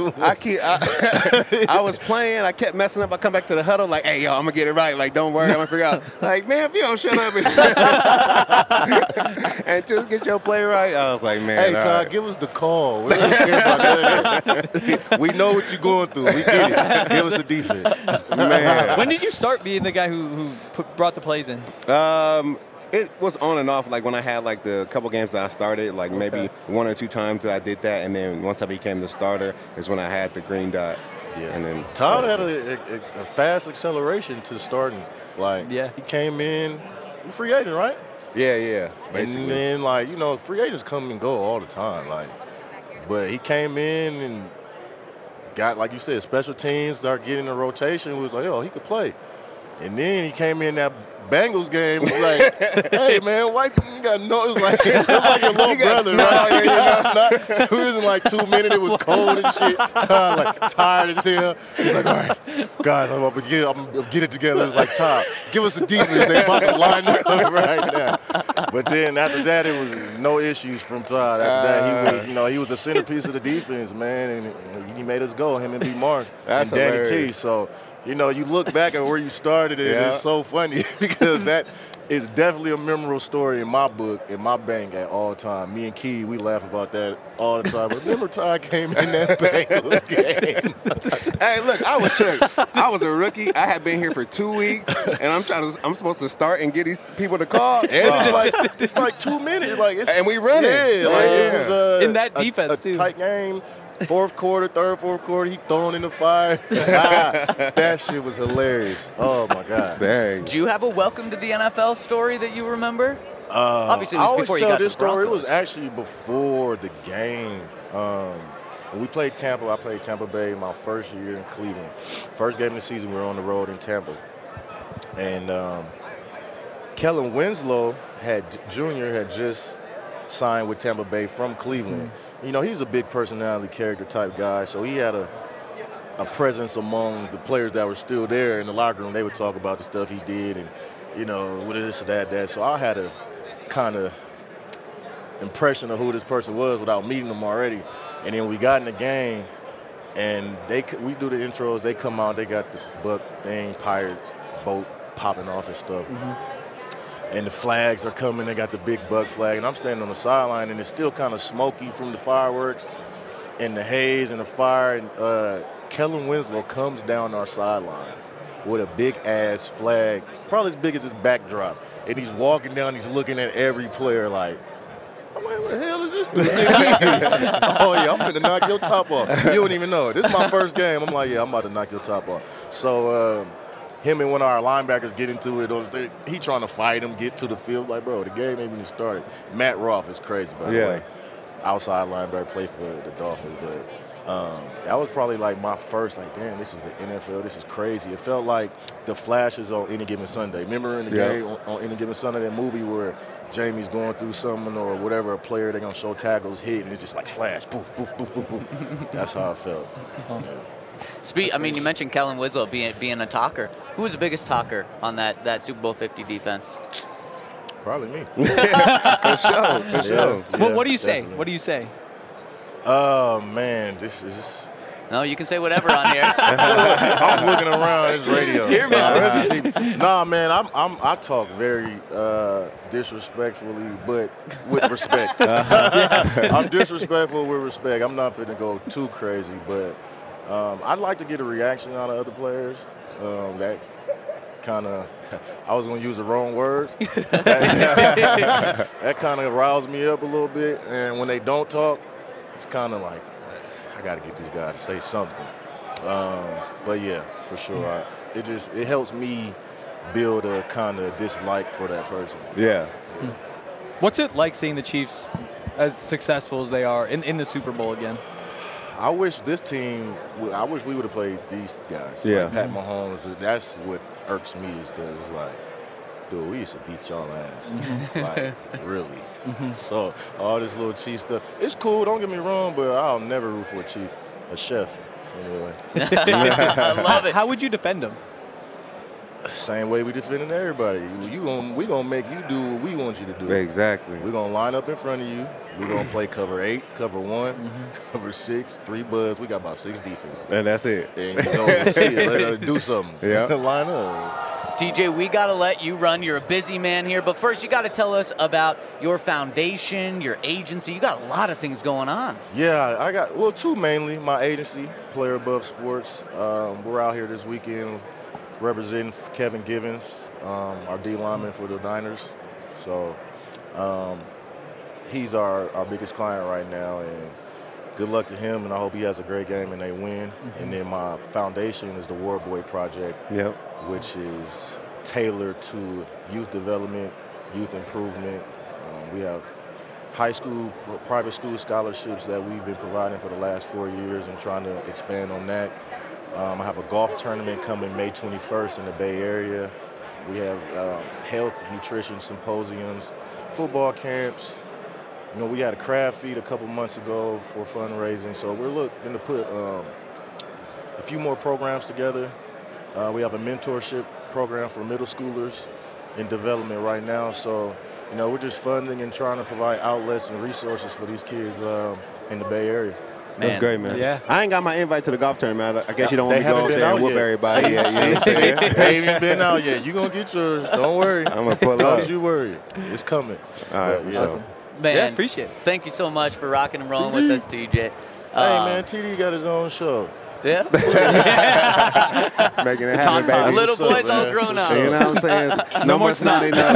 S4: I was playing, I kept messing up. I come back to the huddle, like, hey, yo, I'm gonna get it right. Like, don't worry, I'm gonna figure out. Like, man, if you don't shut up and just get your play right, I was like, man.
S9: Hey, Todd,
S4: right.
S9: give us the call. We don't care about that. We know what you're going through. We get it. Give us the defense.
S4: Man.
S5: When did you start being the guy who brought the plays in?
S4: It was on and off, like when I had like the couple games that I started, like maybe 1 or 2 times that I did that, and then once I became the starter is when I had the green dot.
S9: Yeah.
S4: And then
S9: Todd had a fast acceleration to starting. Like, he came in, free agent, right?
S4: Yeah, basically.
S9: And then, free agents come and go all the time. But he came in and got, like you said, special teams, started getting a rotation. We was like, he could play. And then he came in that Bengals game, was like, hey, man, why you got no? It was like your little brother, right? We was in 2 minutes. It was cold and shit. Todd, tired as hell. He's like, all right, guys, I'm gonna get it together. It's like, Todd, give us a defense. They about to line up right now. But then after that, it was no issues from Todd. After that, he was the centerpiece of the defense, man, and he made us go. Him and B. Mark and Danny
S4: hilarious.
S9: T. So, you look back at where you started, and it's so funny because that is definitely a memorable story in my book, in my bank at all time. Me and Key, we laugh about that all the time. Remember Todd came in that Bengals game?
S4: Hey, look, I was tricked. I was a rookie. I had been here for 2 weeks, and I'm supposed to start and get these people to call.
S9: And it's like 2 minutes.
S4: And we run it.
S9: It was
S5: in that defense,
S9: a
S5: too.
S9: tight game. Fourth quarter, fourth quarter, he thrown in the fire. That shit was hilarious. Oh, my God.
S4: Dang.
S2: Do you have a welcome to the NFL story that you remember? Obviously, it was
S9: I always
S2: before you
S9: tell
S2: got to
S9: this
S2: the Broncos.
S9: story. It was actually before the game. When we played Tampa, I played Tampa Bay my first year in Cleveland. First game of the season, we were on the road in Tampa. And Kellen Winslow Jr. had just signed with Tampa Bay from Cleveland. He's a big personality, character type guy, so he had a presence among the players that were still there in the locker room. They would talk about the stuff he did and, what this or that. So I had a kind of impression of who this person was without meeting him already. And then we got in the game, and we do the intros. They come out, they got the Buck thing, pirate boat popping off and stuff. And the flags are coming. They got the big Buck flag. And I'm standing on the sideline, and it's still kind of smoky from the fireworks and the haze and the fire. And Kellen Winslow comes down our sideline with a big-ass flag, probably as big as this backdrop. And he's walking down. He's looking at every player like, I'm like, what the hell is this dude? Oh, yeah, I'm finna knock your top off. You don't even know it. This is my first game. I'm like, yeah, I'm about to knock your top off. So him and one of our linebackers get into it. He trying to fight him, get to the field. Like, bro, the game ain't even started. Matt Roth is crazy, by the way. Outside linebacker, played for the Dolphins. But that was probably like my first, damn, this is the NFL. This is crazy. It felt like the flashes on Any Given Sunday. Remember in the game on Any Given Sunday, that movie where Jamie's going through something or whatever, a player, they're going to show tackles hit, and it's just like flash, poof, poof, poof, poof, poof. That's how it felt.
S2: You mentioned Kellen Winslow being a talker. Who was the biggest talker on that Super Bowl 50 defense?
S9: Probably me.
S4: For sure.
S5: Well, what do you say? What do you say?
S9: Oh, man, this is...
S2: No, you can say whatever on here.
S9: I'm looking around. It's radio.
S2: Here,
S9: Nah, man, I talk very disrespectfully, but with respect. I'm disrespectful with respect. I'm not finna go too crazy, but I'd like to get a reaction out of other players. That kind of, I was going to use the wrong words. That kind of riles me up a little bit. And when they don't talk, it's kind of like, I got to get these guys to say something. But yeah, for sure. It helps me build a kind of dislike for that person.
S4: Yeah.
S5: What's it like seeing the Chiefs as successful as they are in the Super Bowl again?
S9: I wish this team, I wish we would have played these guys.
S4: Yeah.
S9: Like Pat Mahomes, that's what irks me is because it's like, dude, we used to beat y'all ass. Like, really. So all this little Chief stuff, it's cool, don't get me wrong, but I'll never root for a Chief, a chef, anyway.
S2: I love it.
S5: How would you defend them?
S9: Same way we defending everybody. We gonna make you do what we want you to do.
S4: Exactly.
S9: We're gonna line up in front of you. We're gonna play cover 8, cover 1, cover 6, 3 buds. We got about 6 defenses.
S4: And that's it.
S9: And you go see it, let us do something.
S4: Yeah.
S9: Line up.
S2: DJ, we got to let you run. You're a busy man here. But first, you got to tell us about your foundation, your agency. You got a lot of things going on.
S9: Yeah, I got, 2 mainly. My agency, Player Above Sports. We're out here this weekend representing Kevin Givens, our D lineman for the Niners. So he's our biggest client right now. And good luck to him, and I hope he has a great game and they win. And then my foundation is the War Boy Project, which is tailored to youth development, youth improvement. We have high school, private school scholarships that we've been providing for the last 4 years and trying to expand on that. I have a golf tournament coming May 21st in the Bay Area. We have health, nutrition symposiums, football camps. We had a crab feed a couple months ago for fundraising, so we're looking to put a few more programs together. We have a mentorship program for middle schoolers in development right now, so you know, we're just funding and trying to provide outlets and resources for these kids in the Bay Area.
S4: That's great, man.
S6: Yeah.
S4: I ain't got my invite to the golf tournament. I guess you don't want
S9: They
S4: me to go
S9: haven't
S4: up
S9: been
S4: there and
S9: out
S4: whoop
S9: yet.
S4: everybody yet. You know what I'm saying?
S9: They ain't even been out yet. You're going to get yours. Don't worry.
S4: I'm going to pull
S9: Don't
S4: up.
S9: you worry. It's coming.
S4: All right,
S9: But,
S4: for sure.
S2: Man,
S5: Yeah, appreciate it.
S2: Thank you so much for rocking and rolling with us, TJ.
S9: Hey, man, TD got his own show.
S2: Yeah.
S4: Making it happen, baby.
S2: Little
S9: What's up,
S2: boys all
S9: man?
S2: grown
S9: For
S2: up.
S9: sure.
S4: You know what I'm saying? No more snotty nose.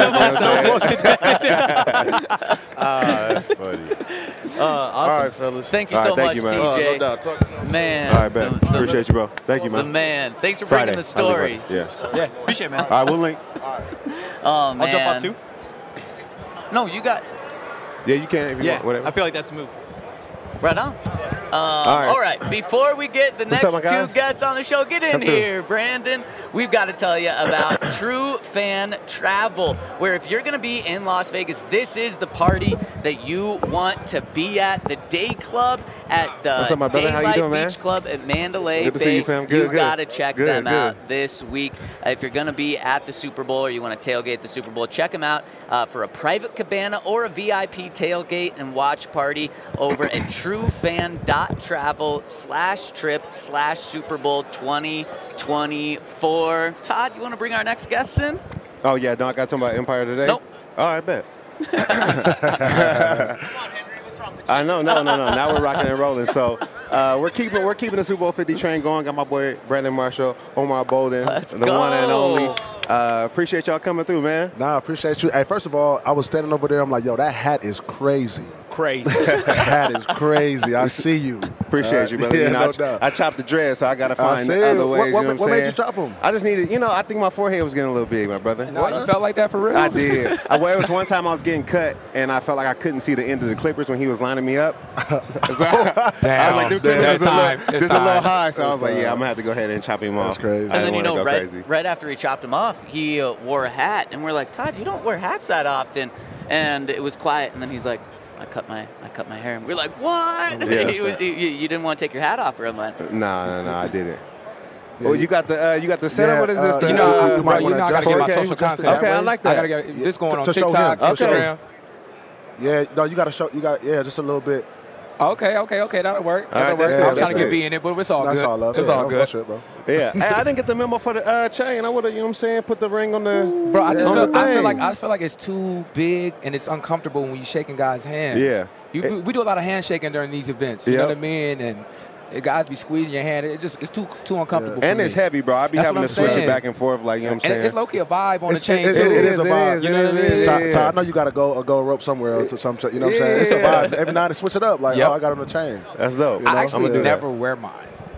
S9: That's funny.
S2: Awesome.
S9: All right, fellas.
S2: Thank you
S4: All
S2: so
S4: right, thank
S2: much,
S4: you, man.
S2: TJ.
S9: No doubt. Talk to you.
S2: Man.
S4: All right, man. Appreciate you, bro. Thank you,
S2: The
S4: man.
S2: man. Thanks for
S4: Friday.
S2: bringing the stories.
S4: Yeah.
S5: Yeah, appreciate it, man.
S4: All right, we'll link.
S2: Oh, man.
S5: I'll jump off too.
S2: No, you got.
S4: Yeah, you can if you
S5: Yeah,
S4: want. Whatever.
S5: I feel like that's the move.
S2: Right on. All right. Before we get the
S4: What's
S2: next
S4: up, my guys?
S2: two guests on the show, get in
S4: Come through.
S2: here, Brandon. We've got to tell you about True Fan Travel, where if you're going to be in Las Vegas, this is the party that you want to be at. The Day Club at the
S4: What's up, my brother? How you
S2: Daylight
S4: doing, man?
S2: Beach Club at Mandalay
S4: Good to
S2: Bay.
S4: see you, fam. Good,
S2: You've
S4: good.
S2: got to check
S4: Good,
S2: them
S4: good.
S2: out this week. If you're going to be at the Super Bowl or you want to tailgate the Super Bowl, check them out for a private cabana or a VIP tailgate and watch party over at truefan.travel/trip/Super Bowl 2024. Todd, you want to bring our next guests in?
S4: Oh, yeah. Don't I got talking about Empire today?
S2: Nope.
S4: All right, bet.
S7: Come on, Henry. What's wrong with you?
S4: I know, no. Now we're rocking and rolling. So we're keeping the Super Bowl 50 train going. Got my boy Brandon Marshall, Omar Bolden,
S2: Let's
S4: the
S2: go.
S4: one and only. Appreciate y'all coming through, man.
S10: Nah, I appreciate you. Hey, first of all, I was standing over there. I'm like, yo, that hat is crazy.
S5: Crazy.
S10: That hat is crazy. I see you.
S4: Appreciate you, brother.
S10: Yeah,
S4: You know,
S10: no doubt.
S4: I chopped the dread, so I got to find
S10: see.
S4: other ways.
S10: What
S4: you know
S10: made
S4: what I'm
S10: you
S4: saying?
S10: chop 'em?
S4: I just needed, I think my forehead was getting a little big, my brother.
S11: No, you felt like that for real?
S4: I did. Well, it was one time I was getting cut, and I felt like I couldn't see the end of the clippers when he was lining me up. So I was like, the clippers is a little high, so I was like, yeah, I'm going to have to go ahead and chop him off.
S10: That's crazy.
S4: I
S2: And
S4: didn't
S2: then,
S4: wanna go crazy.
S2: right after he chopped him off, he wore a hat. And we're like, Todd, you don't wear hats that often. And it was quiet. And then he's like, I cut my hair. And we're like, what?
S4: Yeah.
S2: You didn't want to take your hat off for him, man.
S4: No, I didn't. Well, you got the setup. What is this?
S10: you
S11: know,
S10: might
S11: you
S10: wanna
S11: know I gotta
S10: adjust
S11: get my
S10: it.
S11: social
S10: Adjust it
S11: content.
S4: Okay, I like that.
S11: I gotta get this going on
S10: To show
S11: TikTok,
S10: him.
S11: Instagram.
S10: Yeah, no, you got to show. You got just a little bit.
S11: Okay, that'll work.
S4: All right,
S11: That'll work.
S4: that's it,
S11: I'm trying
S4: that's
S11: to get
S4: it.
S11: B in it, but it's all
S10: That's
S11: good.
S10: all love.
S11: It's all good.
S10: Shit, bro.
S4: Yeah. Hey, I didn't get the memo for the chain. I would have, you know what I'm saying, put the ring on the.
S11: Bro, I just
S4: on
S11: feel,
S4: the thing.
S11: I feel like it's too big and it's uncomfortable when you're shaking guys' hands.
S4: Yeah.
S11: We do a lot of handshaking during these events. You know what I mean? And guys be squeezing your hand. It's too uncomfortable.
S4: And
S11: for
S4: it's
S11: me.
S4: heavy, bro. I be
S11: That's
S4: having
S11: what
S4: to
S11: I'm
S4: switch it
S11: saying.
S4: back and forth, like, you know what I'm
S11: And
S4: saying?
S11: it's low key a vibe on the
S10: It
S11: chain.
S10: is
S11: too.
S10: a vibe.
S11: You know what I mean?
S10: Todd, I know you got to go rope somewhere to some. You know what I'm saying? It's a vibe. Every night to switch it up. Like,
S11: Yep.
S10: oh, I got on the chain.
S4: That's dope.
S10: You know,
S11: I actually
S4: I'ma do that.
S11: never wear mine.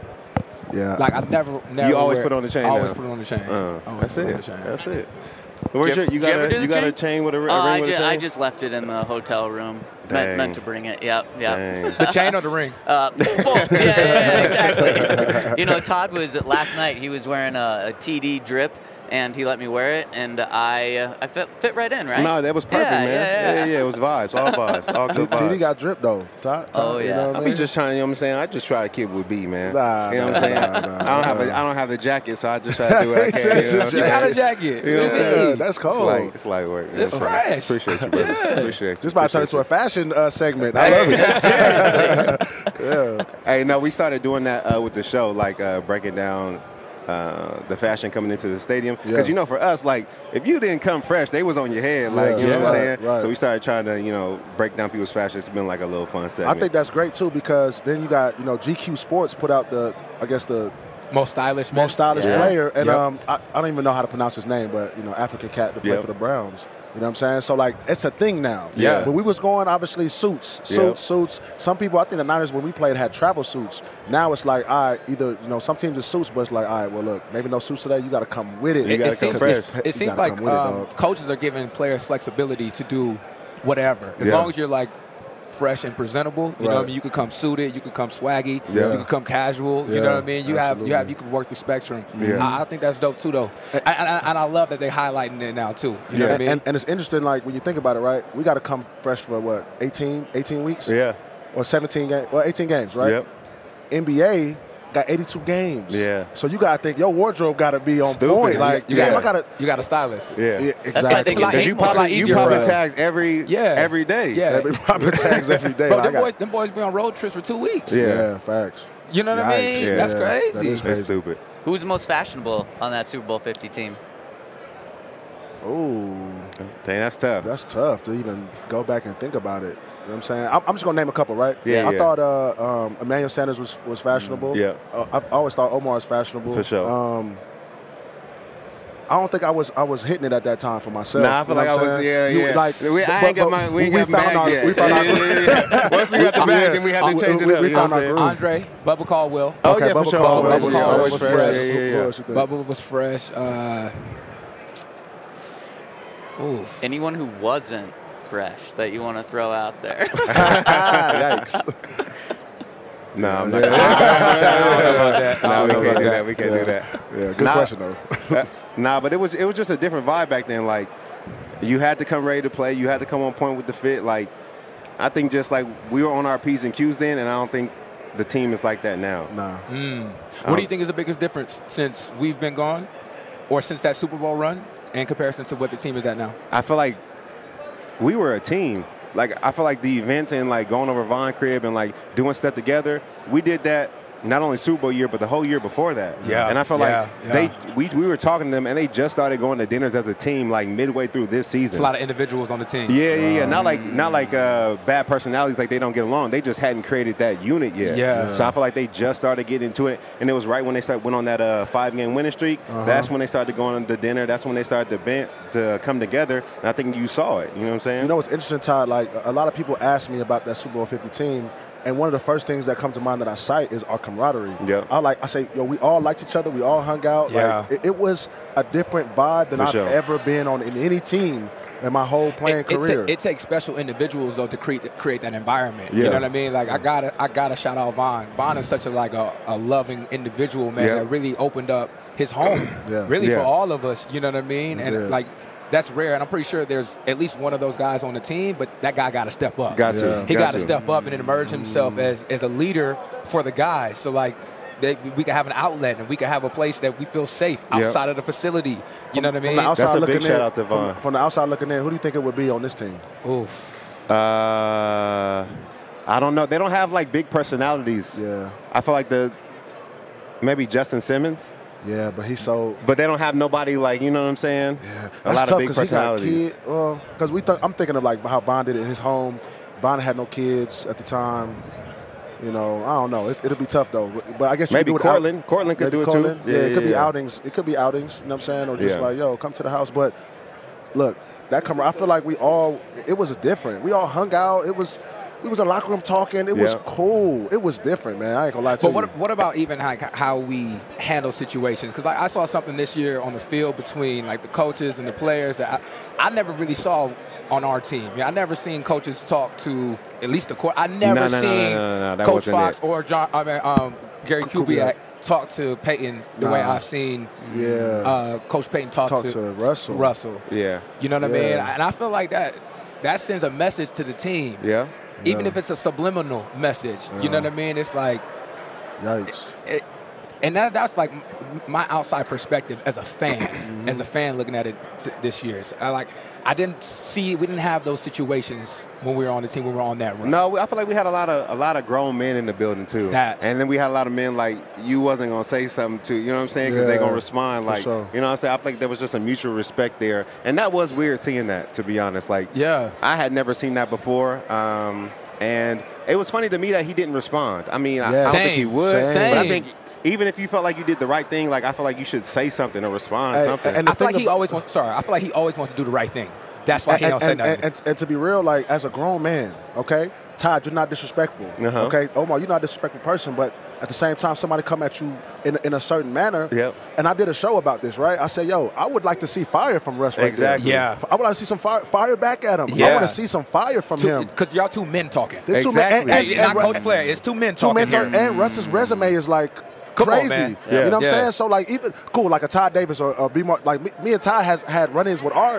S10: Yeah.
S11: Like I never.
S4: You always
S11: wear,
S4: put it on the chain
S11: I always
S4: now.
S11: put it on the chain.
S4: That's
S11: Always put it on
S4: it.
S11: the chain.
S4: That's it. Where's
S2: Did
S4: you
S2: you ever do the
S4: got a
S2: chain?
S4: chain with a ring
S2: I
S4: with a chain?
S2: just left it in the hotel room.
S4: Dang.
S2: Meant to bring it. Yep.
S4: Dang.
S11: The chain or the ring?
S2: Both. Yeah, exactly. Todd was last night. He was wearing a TD drip, and he let me wear it, and I fit right in, right?
S4: No, that was perfect,
S2: Yeah,
S4: man.
S2: yeah.
S4: It was vibes, all vibes, all good
S10: TD
S4: vibes.
S10: got drip though. Todd,
S2: Oh,
S10: you
S2: yeah.
S10: know what
S4: I
S10: I
S4: be
S10: mean?
S4: just trying, you know what I'm saying? I just try to keep it with B, man.
S10: Nah,
S4: you know what I'm saying? I don't have the jacket, so I just try to do what I can. You know what I'm
S11: You got a
S4: saying?
S11: jacket.
S4: You know what I'm
S10: Yeah,
S4: saying?
S10: that's cold.
S4: It's light work. You know
S11: It's
S4: what I'm saying?
S11: fresh.
S4: Appreciate you, brother. Appreciate you.
S10: This about to turn into a fashion segment. I love it.
S4: Hey, no, we started doing that with the show, like breaking down the fashion coming into the stadium. Because,
S10: Yeah.
S4: for us, like, if you didn't come fresh, they was on your head. Like, you know what I'm saying?
S10: Right.
S4: So we started trying to, break down people's fashion. It's been like a little fun segment.
S10: I think that's great too because then you got GQ Sports put out the
S11: Most stylish.
S10: most stylish player, and
S11: Yep.
S10: I don't even know how to pronounce his name, but African cat to play
S4: Yep.
S10: for the Browns. You know what I'm saying? So like it's a thing now.
S4: Yeah.
S10: When we was going, obviously suits. Some people, I think the Niners when we played had travel suits. Now it's like, all right, either some teams is suits, but it's like, all right, well look, maybe no suits today. You got to come with it.
S4: You gotta
S11: It
S4: come
S11: seems,
S4: fresh.
S11: it seems like coaches are giving players flexibility to do whatever. As long as you're like fresh and presentable, you know what I mean? You could come suited, you could come swaggy, you could come casual, you know what I mean? You can work the spectrum. I think that's dope too though. And I love that they're highlighting it now too. You know what I mean?
S10: And it's interesting, like when you think about it, right? We got to come fresh for what, 18 weeks?
S4: Yeah.
S10: Or 17 games, or 18 games, right?
S4: Yep.
S10: NBA got 82 games.
S4: Yeah.
S10: So you gotta think your wardrobe gotta be on
S4: Stupid.
S10: point. Like,
S11: You got a stylist.
S4: Yeah.
S10: Exactly.
S4: Because you popping tags every day.
S11: Yeah.
S10: Every popping tags every day.
S11: Bro,
S10: Like,
S11: them boys be on road trips for 2 weeks.
S10: yeah, facts.
S11: You know what I mean?
S4: Yeah.
S11: That's crazy.
S10: That is
S4: That's
S10: crazy.
S4: stupid.
S2: Who's the most fashionable on that Super Bowl 50 team?
S10: Ooh,
S4: Dang, that's tough.
S10: that's tough to even go back and think about it. You know what I'm saying? I'm just gonna name a couple, right?
S4: Yeah,
S10: I
S4: yeah.
S10: thought Emmanuel Sanders was fashionable.
S4: Yeah.
S10: I've always thought Omar was fashionable.
S4: For sure.
S10: I don't think I was hitting it at that time for myself.
S4: Nah, I feel like I was, yeah.
S10: Like,
S4: we ain't got bag yet.
S10: We found our
S4: Once we got the bag, then we had to change it up.
S10: We
S4: You know
S10: found
S4: what
S10: our
S4: I'm
S10: groove.
S11: Andre, Bubba Caldwell.
S4: Oh,
S10: Okay,
S4: yeah, for
S10: Bubba
S4: sure.
S10: Caldwell
S4: Always
S10: was
S4: fresh.
S10: always
S4: Always
S10: fresh.
S4: fresh.
S10: Yeah,
S4: Yeah, yeah,
S10: Of course.
S11: Bubba was fresh. Oof.
S2: Anyone who wasn't fresh that you want to throw out there?
S10: Yikes.
S4: No, I'm not.
S11: No,
S4: we can't do that. We can't do that.
S10: Yeah, good question though.
S4: Nah, but it was just a different vibe back then. Like, you had to come ready to play. You had to come on point with the fit. Like, I think just like we were on our P's and Q's then, and I don't think the team is like that now.
S10: Nah.
S11: What do you think is the biggest difference since we've been gone, or since that Super Bowl run, in comparison to what the team is at now?
S4: I feel like we were a team. Like, I feel like the events and like going over Von crib and like doing stuff together, we did that not only Super Bowl year, but the whole year before that.
S11: Yeah.
S4: And I feel like we were talking to them, and they just started going to dinners as a team like midway through this season.
S11: It's a lot of individuals on the team.
S4: Yeah. Not like bad personalities, like they don't get along. They just hadn't created that unit yet.
S11: Yeah.
S4: So I feel like they just started getting into it, and it was right when they went on that 5-game winning streak. That's when they started going to dinner. That's when they started to come together, and I think you saw it. You know what I'm saying?
S10: You know what's interesting, Todd? Like, a lot of people ask me about that Super Bowl 50 team, and one of the first things that come to mind that I cite is our camaraderie.
S4: Yeah.
S10: I say, yo, we all liked each other. We all hung out.
S11: Yeah.
S10: Like, it was a different vibe than
S4: For
S10: I've
S4: sure.
S10: ever been on in any team in my whole playing career.
S11: It takes special individuals though to create that environment.
S4: Yeah.
S11: You know what I mean? Like I gotta shout out Von. Von is such a loving individual, man,
S4: Yeah.
S11: that really opened up his home,
S10: Yeah.
S11: really
S4: Yeah.
S11: for all of us. You know what I mean? And
S10: Yeah.
S11: like that's rare, and I'm pretty sure there's at least one of those guys on the team, but that guy got to step up.
S4: Got to.
S11: He got to
S4: to.
S11: step up and emerge himself as a leader for the guys. So like. We can have an outlet and we can have a place that we feel safe outside of the facility. You know what I mean?
S10: From the outside
S4: That's a
S10: looking
S4: big shout out to Von.
S10: From the outside looking in, who do you think it would be on this team?
S11: Oof.
S4: I don't know. They don't have like big personalities.
S10: Yeah.
S4: I feel like maybe Justin Simmons.
S10: Yeah, but he's so.
S4: But they don't have nobody like, you know what I'm saying?
S10: Yeah,
S4: A lot of big
S10: because
S4: personalities.
S10: Because I'm thinking of like how Von did it in his home. Von had no kids at the time. You know, I don't know. It'll be tough though. But I guess you
S4: Maybe
S10: could do
S4: Cortland. Cortland could do it too.
S10: Yeah, it could be outings. It could be outings. You know what I'm saying? Or just
S4: Yeah.
S10: like, yo, come to the house. But look, I feel like it was different. We all hung out. We was in the locker room talking. It was
S4: Yeah.
S10: cool. It was different, man. I ain't gonna lie to
S11: But
S10: you.
S11: what about even how we handle situations? Because like I saw something this year on the field between like the coaches and the players that I never really saw on our team. Yeah, I never seen coaches talk to at least the court. I never seen
S4: That
S11: Coach
S4: wasn't
S11: Fox
S4: it.
S11: or Gary Kubiak talk to Peyton the way I've seen Coach Peyton talk
S10: to Russell.
S11: Russell.
S4: Yeah.
S11: You know what I mean?
S10: Yeah.
S11: And I feel like that sends a message to the team.
S4: Yeah.
S11: Even if it's a subliminal message. You know what I mean? It's like,
S10: Yikes.
S11: and that's like my outside perspective as a fan, as a fan looking at it this year. So we didn't have those situations when we were on the team, when we were on that run.
S4: No, I feel like we had a lot of grown men in the building too. And then we had a lot of men like you wasn't gonna say something to, you know what I'm saying? Because they're gonna respond like,
S10: sure.
S4: you know what I'm saying? I feel like there was just a mutual respect there, and that was weird seeing that, to be honest. Like, I had never seen that before, and it was funny to me that he didn't respond. I mean, I don't think he would, but I think. Even if you felt like you did the right thing, like I feel like you should say something or respond something.
S11: And I feel like he always wants to do the right thing. That's why he don't say nothing.
S10: And to be real, like as a grown man, okay, Todd, you're not disrespectful. Okay, Omar, you're not a disrespectful person, but at the same time, somebody come at you in a certain manner.
S4: Yep.
S10: And I did a show about this, right? I said, yo, I would like to see fire from Russ.
S4: Exactly.
S10: Right there. I would like to see some fire back at him.
S11: Yeah.
S10: I want to see some fire from him.
S11: Because y'all two men talking.
S4: Exactly.
S11: Not coach player. It's two men talking.
S10: And Russ's resume is like crazy.
S11: Man.
S10: You know what I'm saying? So like even cool, like a Todd Davis or B. Mark, like me and Todd has had run-ins with our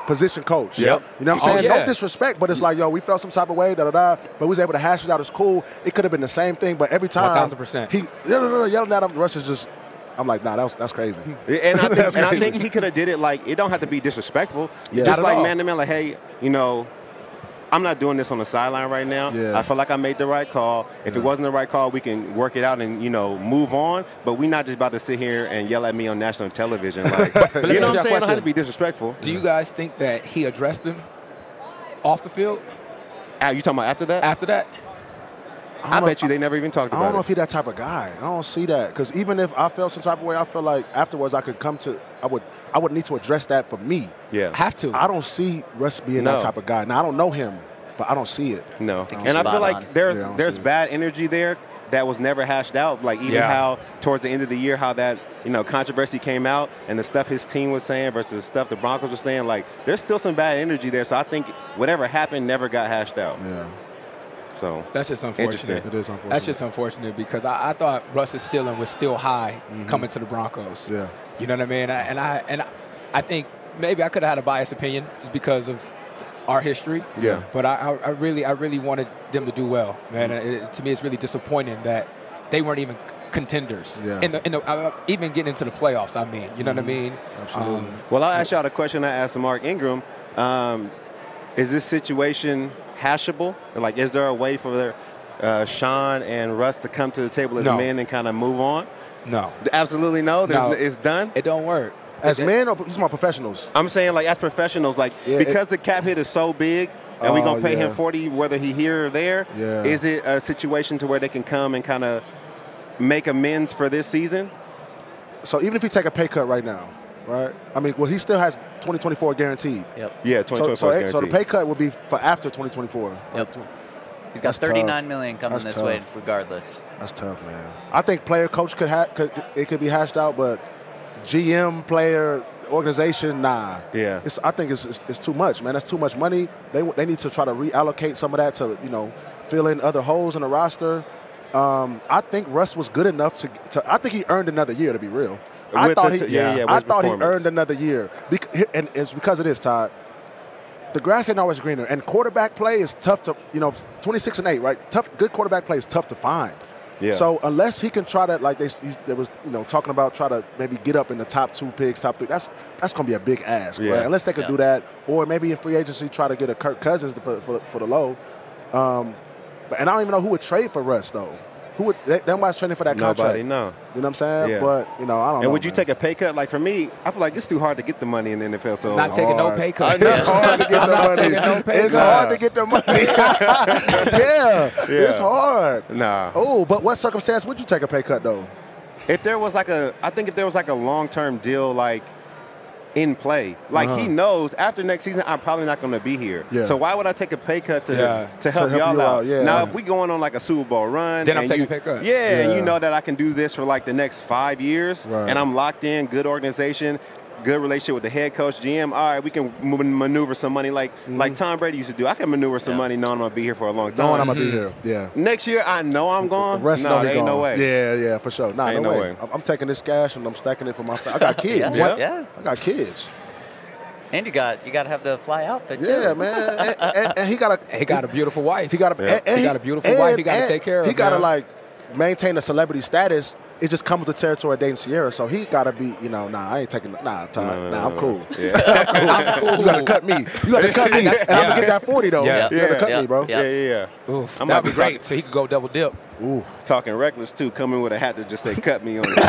S10: position coach.
S11: Yep.
S10: You know what I'm saying?
S11: Yeah.
S10: No disrespect, but it's like, yo, we felt some type of way, but we was able to hash it out. It's cool. It could have been the same thing, but every time
S11: 1000%.
S10: he yelling at him, Russ is just, I'm like, nah, that's crazy.
S4: And I think he could have did it like, it don't have to be disrespectful.
S10: Yeah.
S4: Just
S10: Not at
S4: like
S10: all.
S4: man to man, like, hey, you know, I'm not doing this on the sideline right now.
S10: Yeah.
S4: I feel like I made the right call. If it wasn't the right call, we can work it out and, you know, move on. But we're not just about to sit here and yell at me on national television. Like, you know what I'm saying? I don't have to be disrespectful.
S11: Do you guys think that he addressed him off the field?
S4: You talking about after that?
S11: After that?
S4: I bet you they never even talked about it.
S10: I don't know if he's that type of guy. I don't see that. Because even if I felt some type of way, I feel like afterwards I could come to, I would need to address that for me.
S4: Yeah.
S11: Have to.
S10: I don't see Russ being that type of guy. Now, I don't know him, but I don't see it.
S4: No. And I feel like there's bad energy there that was never hashed out. Like even how towards the end of the year, how that, you know, controversy came out and the stuff his team was saying versus the stuff the Broncos were saying, like there's still some bad energy there. So I think whatever happened never got hashed out.
S10: Yeah.
S4: So
S11: that's just unfortunate.
S10: It is unfortunate.
S11: That's just unfortunate because I thought Russ's ceiling was still high coming to the Broncos.
S10: Yeah.
S11: You know what I mean? I think maybe I could have had a biased opinion just because of our history.
S10: Yeah.
S11: But I really wanted them to do well, man. To me, it's really disappointing that they weren't even contenders.
S10: Yeah.
S11: Even getting into the playoffs. I mean, you know what I mean?
S10: Absolutely.
S4: Well, I'll ask y'all the question I asked Mark Ingram. Is this situation hashable? Like, is there a way for Sean and Russ to come to the table as men and kind of move on?
S11: No.
S4: Absolutely no? It's done?
S11: It don't work.
S10: As men or these are my professionals?
S4: I'm saying, like, as professionals, like, because the cap hit is so big and we're going to pay him $40 whether he here or there, is it a situation to where they can come and kind of make amends for this season?
S10: So even if he take a pay cut right now, right? I mean, well, he still has 2024 guaranteed.
S2: Yep.
S4: Yeah, 2024 guaranteed.
S10: So the pay cut will be for after 2024.
S2: Yep. He's got $39 million coming this way regardless.
S10: That's tough, man. I think player coach could be hashed out, but GM player organization, nah.
S4: Yeah.
S10: I think it's too much, man. That's too much money. They need to try to reallocate some of that to, you know, fill in other holes in the roster. I think Russ was good enough to I think he earned another year, to be real. I thought he earned another year. And it's because of this, Todd. The grass ain't always greener. And quarterback play is tough to, 26-8, right? Good quarterback play is tough to find.
S4: Yeah.
S10: So unless he can try to, like they was, talking about, try to maybe get up in the top 2 picks, top 3, that's going to be a big ask, right? Unless they could do that. Or maybe in free agency try to get a Kirk Cousins for the low. And I don't even know who would trade for Russ, though. Nobody's trading for that contract.
S4: Nobody, no.
S10: You know what I'm saying?
S4: Yeah.
S10: But, I don't know.
S4: And would you take a pay cut? Like, for me, I feel like it's too hard to get the money in the NFL. So
S11: not taking no pay cut.
S10: It's hard to get the money. It's hard to get the money. It's hard.
S4: Nah.
S10: Oh, but what circumstance would you take a pay cut, though?
S4: If there was like a long-term deal, like, in play. Like, he knows after next season, I'm probably not going to be here.
S10: Yeah.
S4: So why would I take a pay cut to help y'all out? Now, if we going on like a Super Bowl run.
S11: Then I'm taking a pay cut.
S4: Yeah, and you know that I can do this for like the next 5 years.
S10: Right.
S4: And I'm locked in, good organization, good relationship with the head coach, GM. All right, we can maneuver some money like Tom Brady used to do. I can maneuver some money knowing I'm going to be here for a long time.
S10: Knowing I'm going to be here, yeah.
S4: Next year, I know I'm gone.
S10: The rest
S4: no, there ain't
S10: gone.
S4: no way.
S10: Yeah, for sure. Nah,
S4: ain't
S10: no
S4: no
S10: way.
S4: way.
S10: I'm taking this cash and I'm stacking it for my family. I got kids.
S2: Yeah.
S10: I got kids.
S2: And you got to have the fly outfit too.
S10: Yeah, man. And he got
S11: a beautiful wife.
S10: He got a beautiful
S11: wife. He got to take care of.
S10: He got to like maintain a celebrity status. It just comes with the territory of dating Sierra, so he got to be, I ain't taking, I'm cool.
S4: Yeah.
S10: I'm cool. You got to cut me. And I'm going to get that 40, though.
S11: Yeah.
S10: You got to cut me, bro.
S4: Yeah.
S11: Oof,
S4: I'm
S11: that'd be great. So he could go double dip.
S10: Ooh.
S4: Talking reckless, too. Coming with a hat that just say, cut me on it.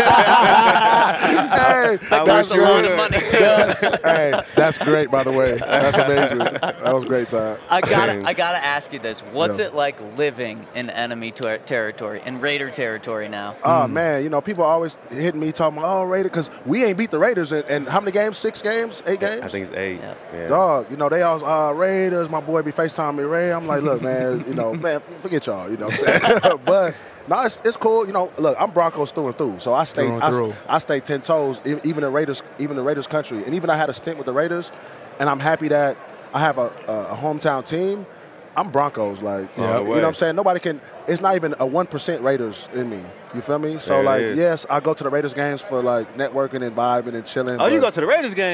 S10: That
S2: costs a lot of money, too.
S10: Hey, that's great, by the way. That's amazing. That was great, Todd.
S2: I gotta ask you this. What's it like living in enemy territory, in Raider territory now?
S10: Oh, man. People always hitting me talking about, Raider, because we ain't beat the Raiders in how many games? 6 games? 8 games?
S4: I think it's 8. Yeah.
S10: Dog, they always, Raiders, my boy be FaceTiming me, Ray. I'm like, look, man, man, forget y'all, you know what I'm saying? But no, it's cool. Look, I'm Broncos through and through, so I stay 10 toes, even the Raiders country, and even I had a stint with the Raiders, and I'm happy that I have a hometown team. I'm Broncos. Like,
S4: Yeah,
S10: you know what I'm saying? Nobody can. It's not even a 1% Raiders in me. You feel me? So,
S4: There it is.
S10: yes, I go to the Raiders games for, like, networking and vibing and chilling.
S4: Oh, you go to the Raiders game?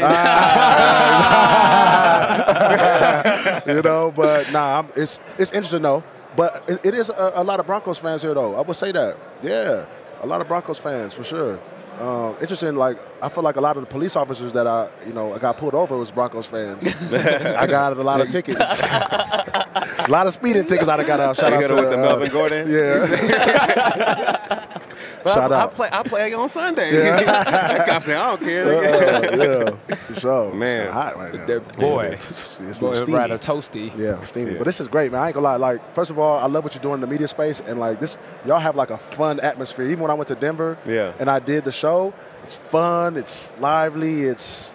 S10: You know, but nah, it's interesting though. But it is a lot of Broncos fans here though. I would say that. Yeah, a lot of Broncos fans for sure. Interesting. Like I feel like a lot of the police officers that I got pulled over was Broncos fans. I got a lot of tickets. A lot of speeding tickets I got out. Shout out to
S4: with the Melvin Gordon.
S10: Yeah. Shout out.
S4: I play on Sunday.
S10: Yeah.
S4: That cop said, I don't care.
S10: Yeah, for sure.
S4: Man.
S10: It's hot right now.
S11: Boy,
S10: It's
S11: boy,
S10: steamy.
S11: rather toasty.
S10: Yeah, steamy.
S4: Yeah.
S10: But this is great, man. I ain't gonna lie. Like, first of all, I love what you're doing in the media space, and like this, y'all have like a fun atmosphere. Even when I went to Denver,
S4: Yeah.
S10: and I did the show, it's fun, it's lively, it's,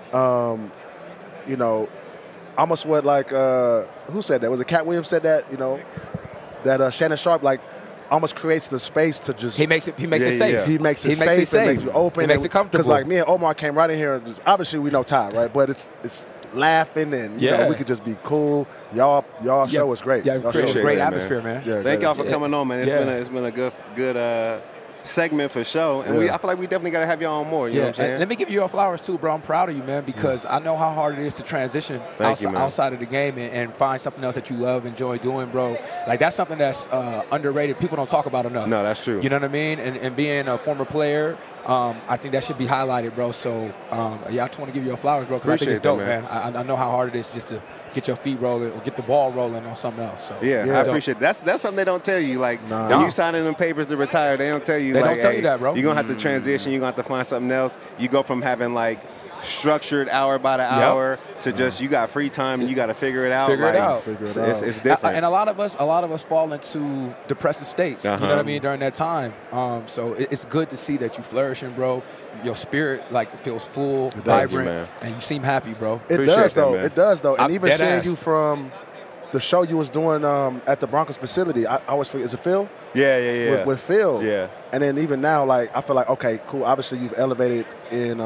S10: you know, almost what like who said that? Was it Cat Williams said that? You know, that Shannon Sharp like almost creates the space to just.
S11: He makes it safe.
S10: Yeah. He makes it safe and makes you open.
S11: He makes it comfortable.
S10: Because like me and Omar came right in here. And just, obviously we know Ty, right? But it's laughing and you know, we could just be cool. Y'all show was great.
S11: Yeah,
S10: Y'all
S11: create
S10: show
S11: a great
S4: man.
S11: atmosphere, man.
S10: Yeah,
S4: Thank y'all for
S10: great.
S4: coming on, man. It's been a good segment for show, and I feel like we definitely got to have y'all on more. You know what I'm saying?
S11: And let me give you your flowers too, bro. I'm proud of you, man, because I know how hard it is to transition outside of the game and find something else that you love, enjoy doing, bro. Like that's something that's underrated. People don't talk about enough.
S4: No, that's true.
S11: You know what I mean? And being a former player, I think that should be highlighted, bro. So I just want to give you your flowers, bro, because I think it's dope, man. I know how hard it is just to get your feet rolling or get the ball rolling on something else. So
S4: I appreciate it. That's something they don't tell you. Like when you signing them papers to retire, they don't tell you.
S11: They
S4: like,
S11: don't tell you that, bro.
S4: You're gonna have to transition. You're gonna have to find something else. You go from having like structured hour by the hour to just you got free time and you got to figure it out. It's different.
S11: And a lot of us fall into depressive states. You know what I mean during that time. So it's good to see that you flourishing, bro. Your spirit like feels full, vibrant, and you seem happy, bro.
S10: It does though. And even seeing you from the show you was doing at the Broncos facility, I always forget, is it Phil?
S4: Yeah.
S10: With Phil.
S4: Yeah.
S10: And then even now, like I feel like okay, cool. Obviously, you've elevated in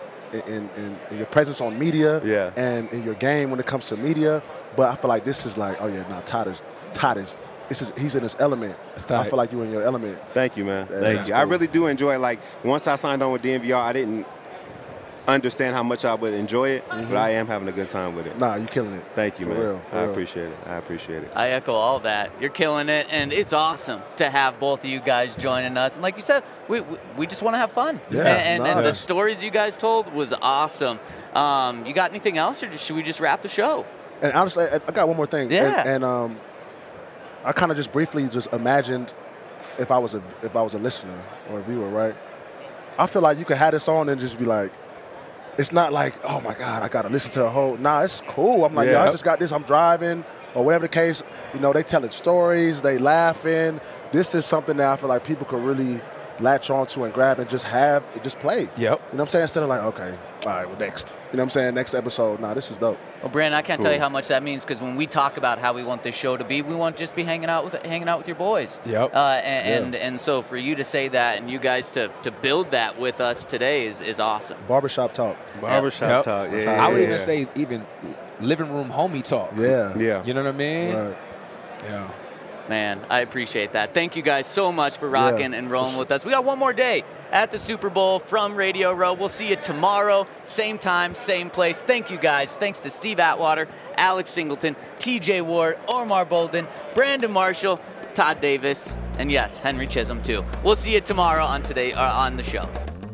S10: your presence on media, and in your game when it comes to media. But I feel like this is like, oh yeah, no, Todd is. He's in his element. I feel like you're in your element.
S4: Thank you, man. Thank you.
S10: Cool.
S4: I really do enjoy it. Like once I signed on with DNVR, I didn't understand how much I would enjoy it, but I am having a good time with it.
S10: Nah, you're killing it.
S4: Thank you,
S10: For
S4: man.
S10: real.
S4: I appreciate it.
S2: I echo all that. You're killing it, and it's awesome to have both of you guys joining us. And like you said, we just want to have fun.
S10: Yeah,
S2: and the stories you guys told was awesome. You got anything else, or should we just wrap the show?
S10: And honestly, I got one more thing.
S2: Yeah.
S10: And I kind of just briefly just imagined if I was a listener or a viewer, right? I feel like you could have this on and just be like, it's not like, oh my God, I got to listen to the whole. Nah, it's cool. I'm like, I just got this. I'm driving or whatever the case. You know, they telling stories, they laughing. This is something that I feel like people could really latch onto and grab and just play.
S11: Yep.
S10: You know what I'm saying? Instead of like, okay, all right, well, next. You know what I'm saying? Next episode. Nah, this is dope.
S2: Well, Brandon, I can't tell you how much that means because when we talk about how we want this show to be, we want to just be hanging out with your boys.
S11: Yep.
S2: And so for you to say that and you guys to build that with us today is awesome.
S10: Barbershop talk.
S4: Barbershop talk. Yeah.
S11: I would even say even living room homie talk.
S10: Yeah.
S11: You know what I mean?
S10: Right.
S11: Yeah.
S2: Man, I appreciate that. Thank you guys so much for rocking and rolling with us. We got one more day at the Super Bowl from Radio Row. We'll see you tomorrow, same time, same place. Thank you guys. Thanks to Steve Atwater, Alex Singleton, TJ Ward, Omar Bolden, Brandon Marshall, Todd Davis, and yes, Henry Chisholm too. We'll see you tomorrow on the show.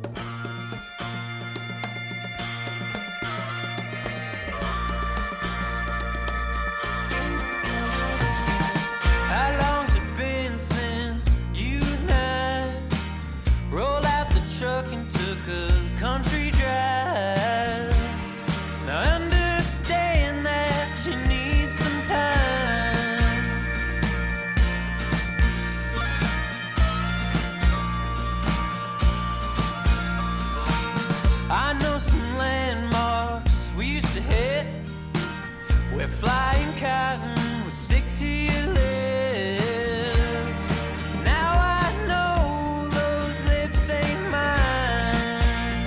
S1: How long's it been since you and I rolled out the truck and took a country drive? Now I understand that you need some time. I know some landmarks we used to hit where flying cotton would stick to your lips. Now I know those lips ain't mine.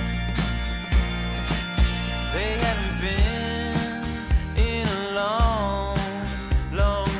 S1: They haven't been in a long, long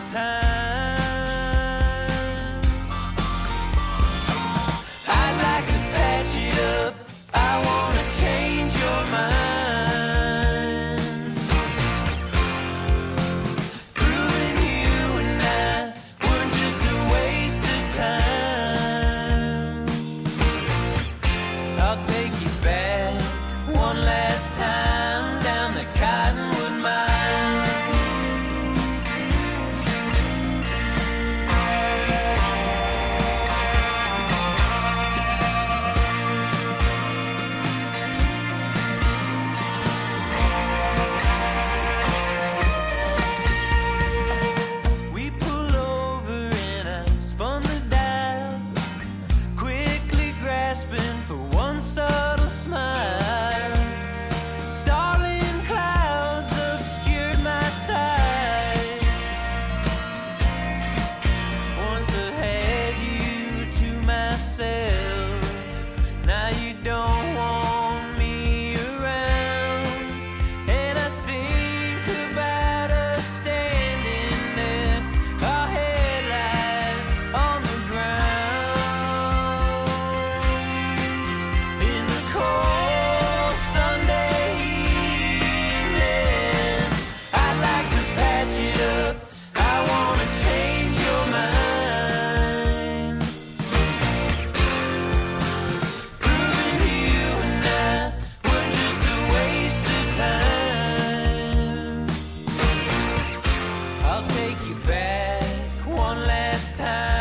S1: I'll take you back one last time.